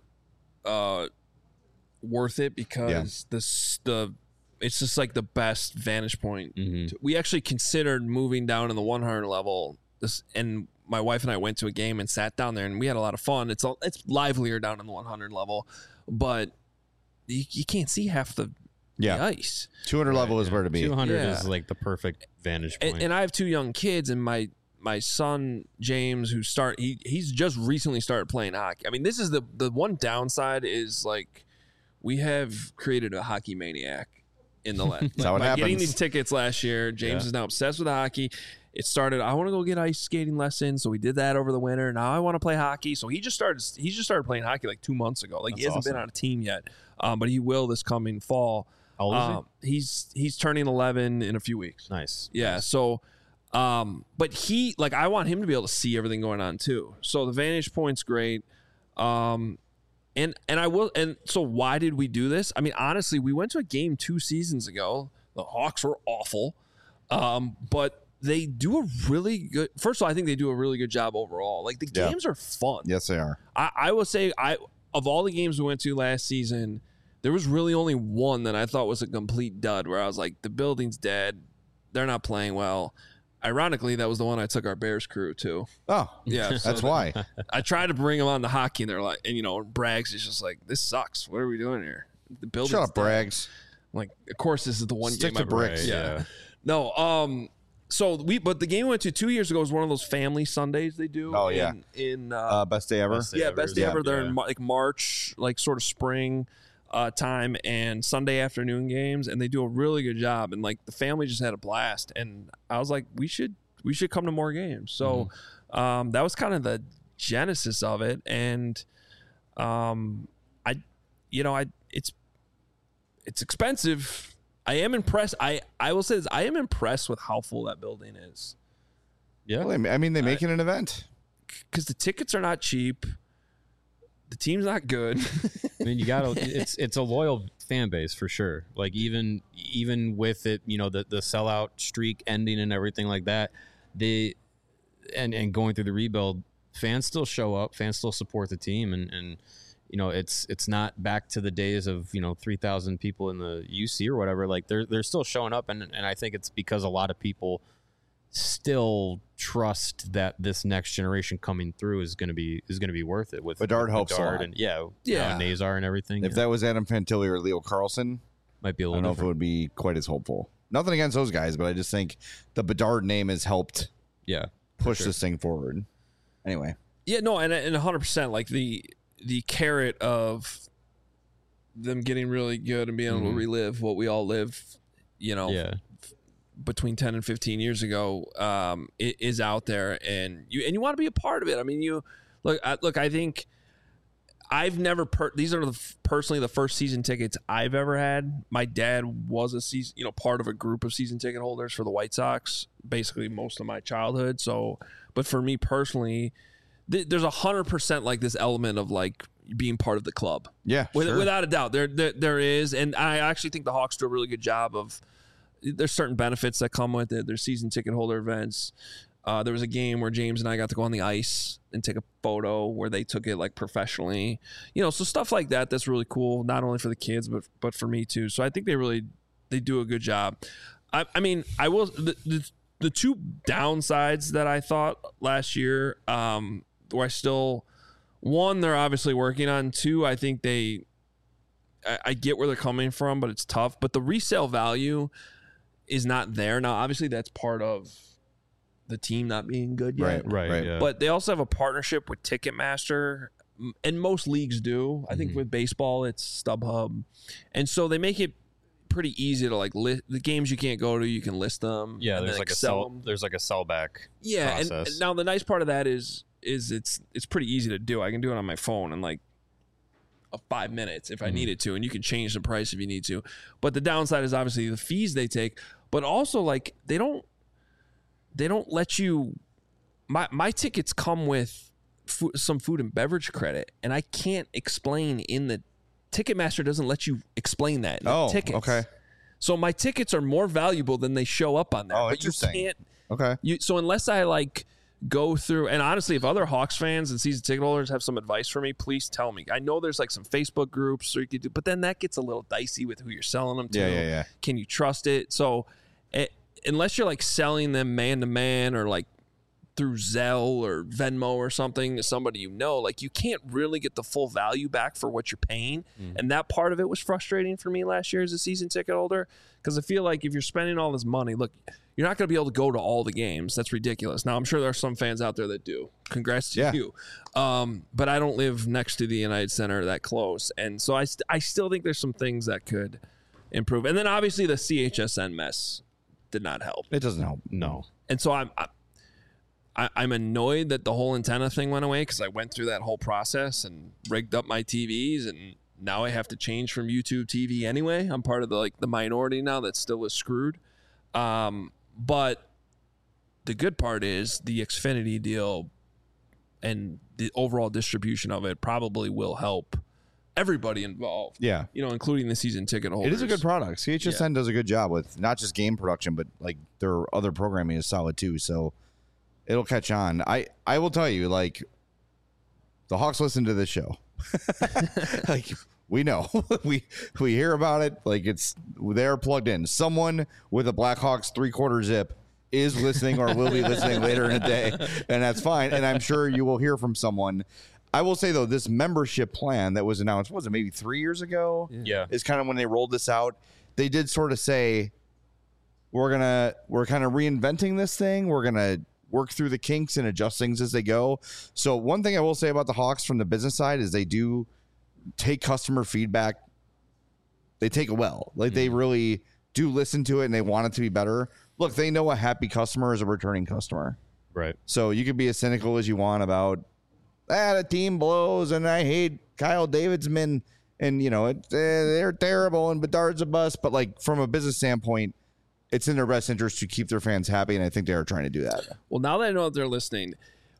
worth it because it's just like the best vantage point. Mm-hmm. We actually considered moving down in the 100 level. And my wife and I went to a game and sat down there, and we had a lot of fun. It's livelier down in the 100 level, but you can't see half the ice. 200 level is where to be. 200 is like the perfect vantage point. And I have two young kids, and my son James, he's just recently started playing hockey. I mean, this is the one downside is we have created a hockey maniac in the last. Getting these tickets last year, James is now obsessed with hockey. It started, I want to go get ice skating lessons, so we did that over the winter. Now I want to play hockey, so he just started playing hockey 2 months ago. He hasn't been on a team yet, but he will this coming fall. How old is he? He's turning 11 in a few weeks. Nice. Yeah. Nice. So, but he I want him to be able to see everything going on too. So the vantage point's great. And I will. And so why did we do this? I mean, honestly, we went to a game 2 seasons ago. The Hawks were awful, but they do a really good. First of all, I think they do a really good job overall. The games are fun. Yes, they are. I will say, of all the games we went to last season, there was really only one that I thought was a complete dud. Where I was like, the building's dead. They're not playing well. Ironically, that was the one I took our Bears crew to. Oh, yeah, that's why. I tried to bring them on the hockey, and they're like, and Braggs is just like, this sucks. What are we doing here? The building's Shut up, dead. Braggs. Of course, this is the one Stick game to bricks. Yeah. No. But the game we went to 2 years ago was one of those family Sundays they do. Oh yeah. In best day ever. Best day ever. They're in March, sort of spring time, and Sunday afternoon games, and they do a really good job. And the family just had a blast, and I was like, we should come to more games. So that was kind of the genesis of it, and it's expensive. I am impressed. I will say this. I am impressed with how full that building is. Yeah. Well, I mean, they make it an event. Because the tickets are not cheap. the team's not good. I mean, you got to. It's a loyal fan base for sure. Like even with it, you know, the sellout streak ending and everything like that, and going through the rebuild, fans still show up, fans still support the team, and you know, it's not back to the days of, you know, 3,000 people in the UC or whatever. Like they're still showing up, and I think it's because a lot of people still trust that this next generation coming through is going to be worth it with Bedard helps a lot. and Nazar and everything. If that was Adam Fantilli or Leo Carlson, might be a I little don't know if it different. would be quite as hopeful. Nothing against those guys, but I just think the Bedard name has helped Yeah, push this thing forward. Anyway, Yeah, no, and 100%, like the carrot of them getting really good and being able to relive what we all lived, you know, yeah. between 10 and 15 years ago, it is out there, and you want to be a part of it. I mean, I think I've never these are personally the first season tickets I've ever had. My dad was a part of a group of season ticket holders for the White Sox basically most of my childhood. So, but for me personally, there's 100% like this element of like being part of the club. yeah, sure. Without a doubt, there is, and I actually think the Hawks do a really good job of. There's certain benefits that come with it. There's season ticket holder events. There was a game where James and I got to go on the ice and take a photo where they took it like professionally, you know, so stuff like that. That's really cool, not only for the kids but for me too. So I think they do a good job. I mean, I will the two downsides that I thought last year, where I still, one, they're obviously working on. Two, I think I get where they're coming from, but it's tough. But the resale value is not there now. Obviously, that's part of the team not being good yet. Right. Yeah. But they also have a partnership with Ticketmaster, and most leagues do. I think with baseball, it's StubHub, and so they make it pretty easy to like list the games you can't go to. You can list them. Yeah, and there's then, like a sell sell. them. There's like a sellback. Yeah, and process. now the nice part of that is it's pretty easy to do. I can do it on my phone in like 5 minutes if I needed to, and you can change the price if you need to. But the downside is obviously the fees they take, but also like they don't let you. My tickets come with some food and beverage credit, and I can't explain in the Ticketmaster doesn't let you explain that. In the tickets. Okay. So my tickets are more valuable than they show up on there. Oh, but interesting. You can't. Okay. So unless I like go through, and honestly, if other Hawks fans and season ticket holders have some advice for me, please tell me. I know there's like some Facebook groups, or you could do, but then that gets a little dicey with who you're selling them to. Yeah. Can you trust it? So unless you're like selling them man to man or like through Zelle or Venmo or something to somebody you know, like you can't really get the full value back for what you're paying. And that part of it was frustrating for me last year as a season ticket holder, because I feel like if you're spending all this money, look, you're not going to be able to go to all the games. That's ridiculous. Now, I'm sure there are some fans out there that do. Congrats to you. But I don't live next to the United Center that close. And so I still think there's some things that could improve. And then obviously the CHSN mess did not help. It doesn't help. No. And so I'm annoyed that the whole antenna thing went away, because I went through that whole process and rigged up my TVs, and now I have to change from YouTube TV anyway. I'm part of the minority now that still is screwed. But the good part is the Xfinity deal and the overall distribution of it probably will help everybody involved. Yeah. You know, including the season ticket holders. It is a good product. CHSN does a good job with not just game production, but like their other programming is solid too. So it'll catch on. I will tell you, like, the Hawks listen to this show. Like, we know. we hear about it. Like, they're plugged in. Someone with a Blackhawks 3/4 zip is listening or will be listening later in the day, and that's fine. And I'm sure you will hear from someone. I will say, though, this membership plan that was announced, was it maybe 3 years ago? Yeah. Is kind of when they rolled this out. They did sort of say, we're kind of reinventing this thing. We're going to work through the kinks and adjust things as they go. So one thing I will say about the Hawks from the business side is they do take customer feedback. They take it well. Like, they really do listen to it, and they want it to be better. Look, they know a happy customer is a returning customer. Right. So you can be as cynical as you want about, the team blows and I hate Kyle Davidsman and, you know, they're terrible and Bedard's a bust. But, like, from a business standpoint, it's in their best interest to keep their fans happy, and I think they are trying to do that. Well, now that I know that they're listening,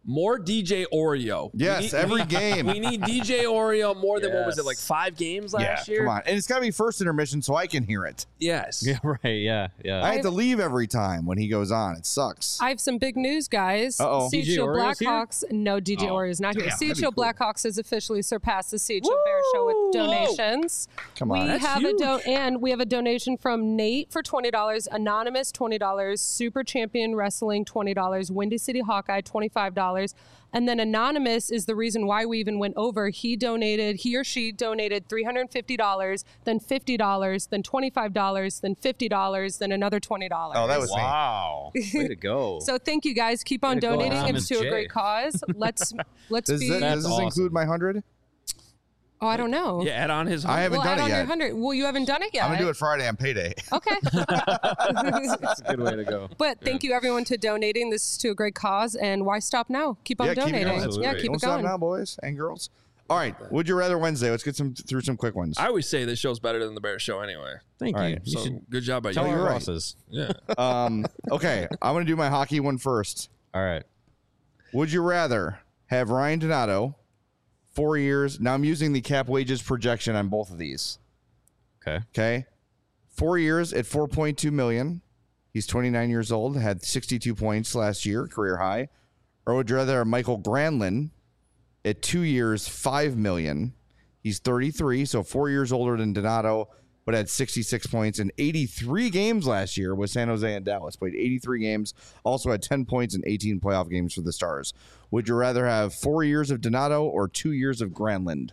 More DJ Oreo. Yes, every game. We need DJ Oreo more than, what was it, Yes. like 5 games last year? Come on. And it's got to be first intermission so I can hear it. Yes. Yeah, right. Yeah, yeah. I have to leave every time when he goes on. It sucks. I have some big news, guys. Uh-oh. DJ CHO Oreo's here? Blackhawks. No, DJ Oh, Oreo is not damn, here. that'd be CHO cool. Blackhawks has officially surpassed the CHO Bear Show with donations. Come We on. That's have huge. and we have a donation from Nate for $20, Anonymous $20, Super Champion Wrestling $20, Windy City Hawkeye $25, and then Anonymous is the reason why we even went over. He or she donated $350, then $50, then $25, then $50, then another $20. Oh, that was me. Wow. Way to go. So thank you guys. Keep on Way to go, donating. Anonymous It's to a J. great cause. Let's Does be. this That's awesome. include my 100? Oh, I don't know. Yeah, add on his. I haven't Well, done add it on your yet. 100. Well, you haven't done it yet. I'm going to do it Friday on payday. Okay. That's a good way to go. But thank you everyone to donating. This is to a great cause, and why stop now? Keep on Yeah, keep it donating. going. Absolutely. Yeah, keep Don't it stop going. now, boys and girls. All right. Would you rather Wednesday? Let's get through some quick ones. I always say this show's better than the Bear Show anyway. Thank All you. right, You So should good job by tell you. our you're right. bosses. Yeah. Okay. I'm going to do my hockey one first. All right. Would you rather have Ryan Donato 4 years? Now I'm using the cap wages projection on both of these. Okay. Okay. 4 years at $4.2 million. He's 29 years old, had 62 points last year, career high. Or would you rather have Michael Granlund at 2 years, $5 million? He's 33, so 4 years older than Donato, but had 66 points in 83 games last year with San Jose and Dallas. Played 83 games, also had 10 points in 18 playoff games for the Stars. Would you rather have 4 years of Donato or 2 years of Granlund?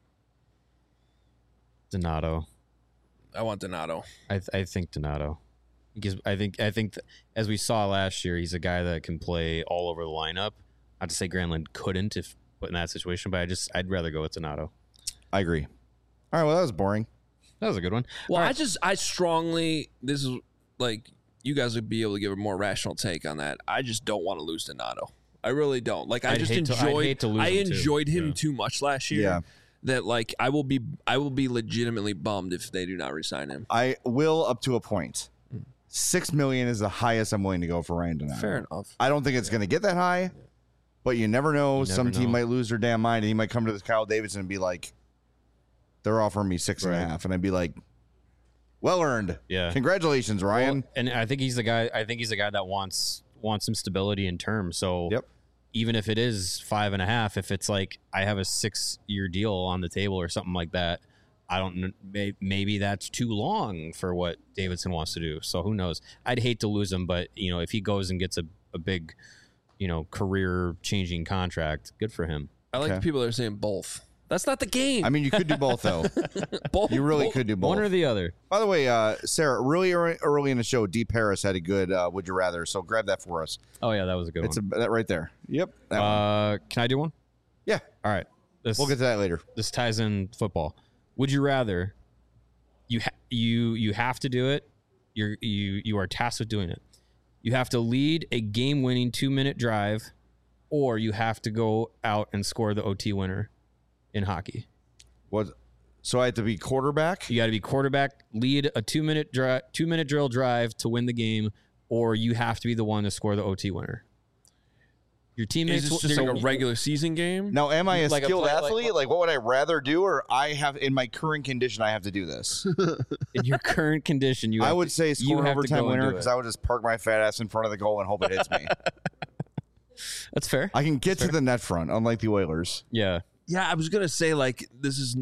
Donato. I want Donato. I think Donato. Because I think as we saw last year, he's a guy that can play all over the lineup. Not to say Granlund couldn't if put in that situation, but I'd rather go with Donato. I agree. All right, well, that was boring. That was a good one. Well, I strongly, this is like, you guys would be able to give a more rational take on that. I just don't want to lose Donato. I really don't. Like, I I'd just hate to- I'd enjoyed, hate to lose I him too. enjoyed him Yeah. too much last year. Yeah. That like I will be legitimately bummed if they do not resign him. I will up to a point. $6 million is the highest I'm willing to go for Ryan Donato. Fair enough. I don't think it's going to get that high, but you never know. You Some never team know. might lose their damn mind, and he might come to this Kyle Davidson and be like, "They're offering me 6.5," and I'd be like, "Well earned. Yeah. Congratulations, Ryan." Well, and I think he's the guy. I think he's the guy that wants some stability in terms. So Yep. even if it is 5.5, if it's like I have a 6-year deal on the table or something like that, I don't. Maybe that's too long for what Davidson wants to do. So who knows? I'd hate to lose him, but if he goes and gets a big, career changing contract, good for him. I like Okay. the people that are saying both. That's not the game. I mean, you could do both though. both. You really both. could do both. One or the other. By the way, Sarah, really early in the show, D. Paris had a good "Would you rather?" So grab that for us. Oh yeah, that was a good It's one. that right there. Yep. That one. Can I do one? Yeah. All right. We'll get to that later. This ties in football. Would you rather? You have to do it. You are tasked with doing it. You have to lead a game-winning 2-minute drive, or you have to go out and score the OT winner in hockey. What? So I have to be quarterback. You got to be quarterback, lead a 2-minute drill drive to win the game, or you have to be the one to score the OT winner. Your teammates. Is this just like a regular season game? Now, am I a Like a skilled play- like- athlete? Like, what would I rather do, or I have in my current condition, I have to do this? In your current condition, I would say score an have to overtime go and winner do because it. I would just park my fat ass in front of the goal and hope it hits me. That's fair. I can get to the net front, unlike the Oilers. Yeah. Yeah, I was gonna say like this is.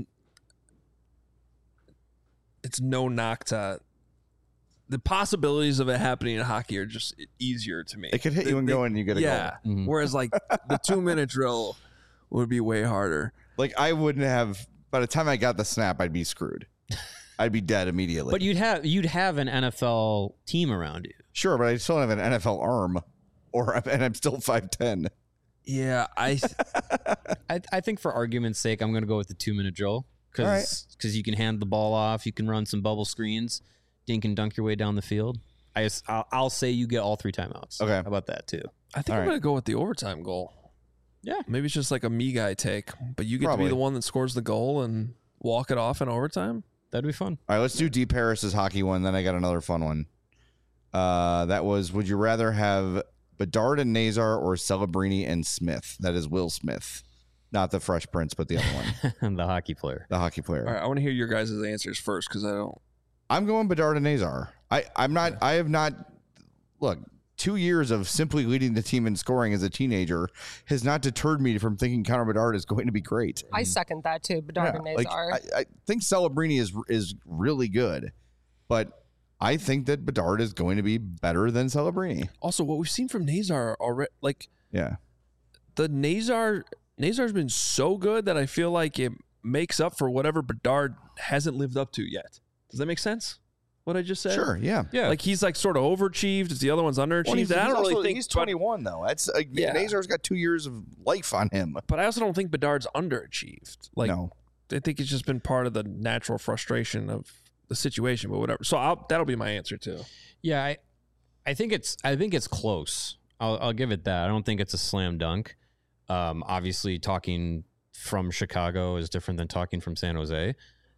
It's no knock to. The possibilities of it happening in hockey are just easier to me. It could hit you and go in, and you get a Yeah. goal. Mhm. Whereas like the 2-minute drill would be way harder. Like, I wouldn't have. By the time I got the snap, I'd be screwed. I'd be dead immediately. But you'd have an NFL team around you. Sure, but I still have an NFL arm, and I'm still 5'10". Yeah, I I think for argument's sake, I'm going to go with the 2-minute drill All right. because you can hand the ball off, you can run some bubble screens, dink and dunk your way down the field. I'll say you get all 3 timeouts. Okay. How about that too? think All I'm right. gonna go with the overtime goal. Yeah. Maybe it's just like a me guy take, but you get Probably. to be the one that scores the goal and walk it off in overtime. That'd be fun. All right, let's do D. Paris's hockey one. Then I got another fun one. That was: would you rather have Bedard and Nazar or Celebrini and Smith. That is Will Smith, not the Fresh Prince, but the other one, The hockey player. the hockey player. All right, I want to hear your guys' answers first because I don't. I'm going Bedard and Nazar. I have not. Look, 2 years of simply leading the team in scoring as a teenager has not deterred me from thinking Connor Bedard is going to be great. I second that too. Bedard and like, Nazar. I think Celebrini is really good, but I think that Bedard is going to be better than Celebrini. Also, what we've seen from Nazar already, like Yeah. the Nazar's been so good that I feel like it makes up for whatever Bedard hasn't lived up to yet. Does that make sense? What I just said? Sure. Yeah. Yeah. Like he's like sort of overachieved. Is the other one's underachieved? Well, I don't really think he's 21 though. That's Nazar's got 2 years of life on him. But I also don't think Bedard's underachieved. Like No. I think it's just been part of the natural frustration of the situation, but whatever. So that'll be my answer too. Yeah, I think it's close. I'll give it that. I don't think it's a slam dunk. Obviously, talking from Chicago is different than talking from San Jose.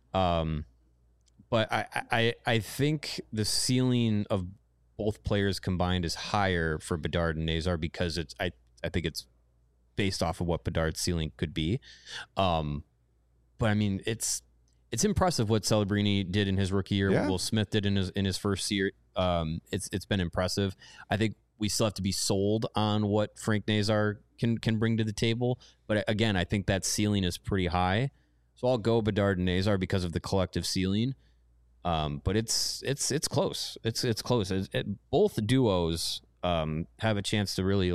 But I think the ceiling of both players combined is higher for Bedard and Nazar because I think it's based off of what Bedard's ceiling could be. But I mean, it's impressive what Celebrini did in his rookie year. Yeah. What Will Smith did in his first year. It's been impressive. I think we still have to be sold on what Frank Nazar can bring to the table. But again, I think that ceiling is pretty high. So I'll go Bedard and Nazar because of the collective ceiling. But it's close. It's close. Both duos have a chance to really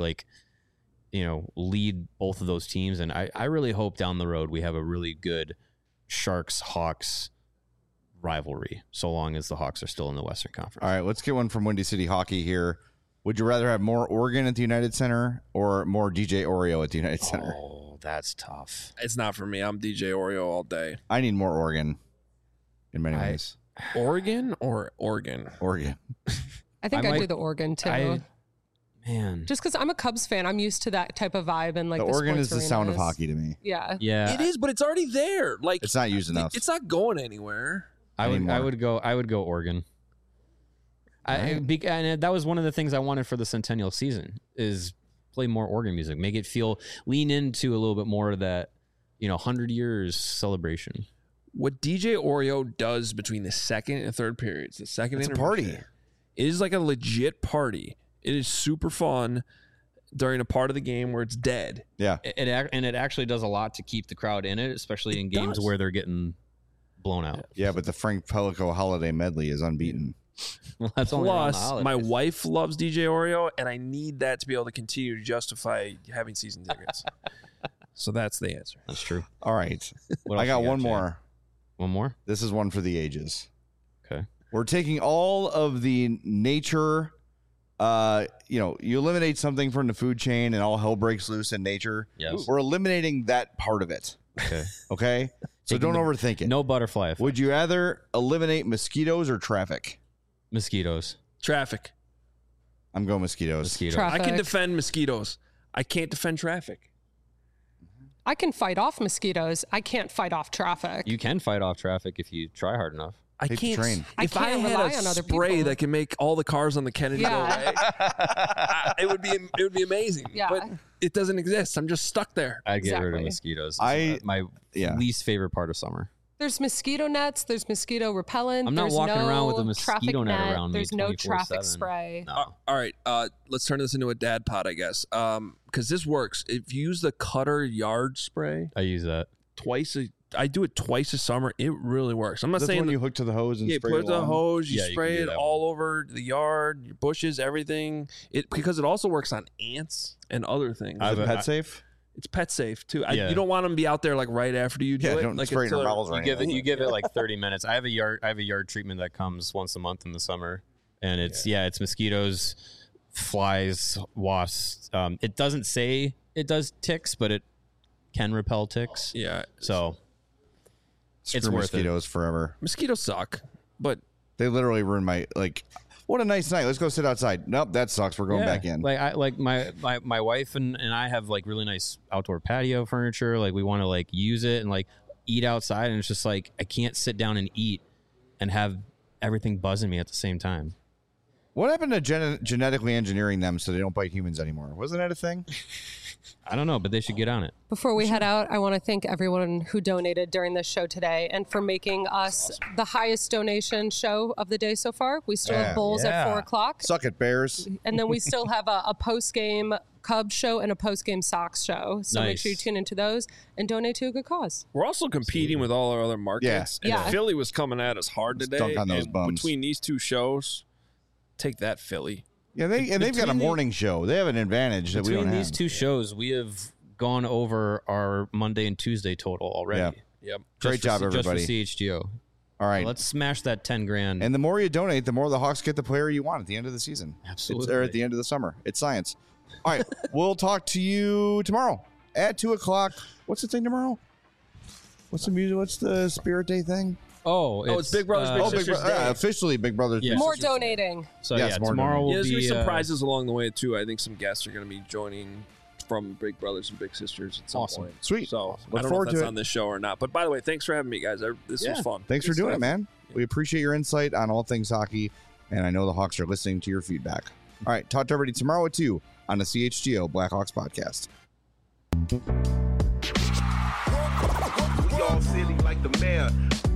lead both of those teams. And I really hope down the road we have a really good Sharks-Hawks rivalry, so long as the Hawks are still in the Western Conference. All right, let's get one from Windy City Hockey here. Would you rather have more Oregon at the United Center or more DJ Oreo at the United Center? Oh, that's tough. It's not for me. I'm DJ Oreo all day. I need more Oregon in many ways. Oregon or Oregon? Oregon. I think I I'd might- do the Oregon too. Man. Just because I'm a Cubs fan, I'm used to that type of vibe and like The the Oregon is sports the sound of arenas. hockey to me. Yeah. Yeah. It is, but it's already there. Like It's not used enough. It's not going anywhere. I anymore. would go Oregon. And that was one of the things I wanted for the Centennial season is play more Oregon music, make it lean into a little bit more of that, 100 years celebration. What DJ Oreo does between the second and third periods, the second It's a intermission, party. It is like a legit party. It is super fun during a part of the game where it's dead. Yeah. And it actually does a lot to keep the crowd in it, especially in games does. where they're getting blown out. Yeah, but the Frank Pellico holiday medley is unbeaten. Well, that's only around the Plus, my holidays. wife loves DJ Oreo, and I need that to be able to continue to justify having season tickets. So that's the answer. That's true. All right. What I else got you one Jay? more. One more? This is one for the ages. Okay. We're taking all of the nature, you eliminate something from the food chain and all hell breaks loose in nature. Yes. We're eliminating that part of it. Okay. Okay? So Taking don't the- overthink it. No butterfly effect. Would you rather eliminate mosquitoes or traffic? Mosquitoes. Traffic. I'm going mosquitoes. Mosquitoes. I can Traffic. defend mosquitoes. I can't defend traffic. I can fight off mosquitoes. I can't fight off traffic. You can fight off traffic if you try hard enough. I Take the can't. train. I If can't I had rely a on other spray people. that can make all the cars on the Kennedy go Yeah. away, it would be amazing. Yeah. But it doesn't exist. I'm just stuck there. I'd get rid of Exactly. mosquitoes. I- my yeah. least favorite part of summer. There's mosquito nets. There's mosquito repellent. I'm not there's walking no around with a mosquito traffic net around me There's no 24/7. traffic spray. No. All right. Let's turn this into a dad pod, I guess. Because this works. If you use the Cutter yard spray I use that. I do it twice a summer. It really works. I'm not That's saying when you hook to the hose and yeah, spray put it the along. hose, you Yeah, you spray can do it that all over the yard, your bushes, everything. Because it also works on ants and other things. Is it I've- pet safe? It's pet safe too. Yeah. You don't want them to be out there like right after you do Yeah, it. don't like spray in your until- mouths or You give it like 30 minutes. I have a yard treatment that comes once a month in the summer, and it's mosquitoes, flies, wasps. It doesn't say it does ticks, but it can repel ticks. Yeah. So Screw It's worth it. mosquitoes forever. Mosquitoes suck, but They literally ruin my what a nice night. Let's go sit outside. Nope, that sucks. We're going yeah, back in. Like my wife and I have like really nice outdoor patio furniture. Like we want to like use it and like eat outside, and it's just like I can't sit down and eat and have everything buzzing me at the same time. What happened to genetically engineering them so they don't bite humans anymore? Wasn't that a thing? I don't know, but they should get on it. Before we head out, I want to thank everyone who donated during this show today and for making us the highest donation show of the day so far. We still have bowls at 4 o'clock. Suck it, Bears. And then we still have a post-game Cubs show and a post-game Sox show. So make sure you tune into those and donate to a good cause. We're also competing with all our other markets. Yeah. And Philly was coming at us hard today. Dunk on those bums. Between these two shows, take that, Philly. Yeah, they've got a morning show. They have an advantage that we don't have. Between these two shows, we have gone over our Monday and Tuesday total already. Yeah. Yep. Great job, everybody. Just for CHGO. All right. So let's smash that 10 grand. And the more you donate, the more the Hawks get the player you want at the end of the season. Absolutely. Or at the end of the summer. It's science. All right. We'll talk to you tomorrow at 2 o'clock. What's the thing tomorrow? What's the music? What's the Spirit Day thing? It's Big Brothers Big Sisters Day. Officially Big Brothers Yeah. Big More Sisters Day. donating. So Yes, yeah, more tomorrow donating. will There's going be to be some prizes along the way, too. I think some guests are going to be joining from Big Brothers and Big Sisters at some Awesome. point. Sweet. So Look I don't forward know if to that's it. on this show or not. But by the way, thanks for having me, guys. This was fun. Thanks for Good doing it, stuff. man. We appreciate your insight on all things hockey, and I know the Hawks are listening to your feedback. All right, talk to everybody tomorrow at 2 on the CHGO Blackhawks podcast. We all silly like the mayor.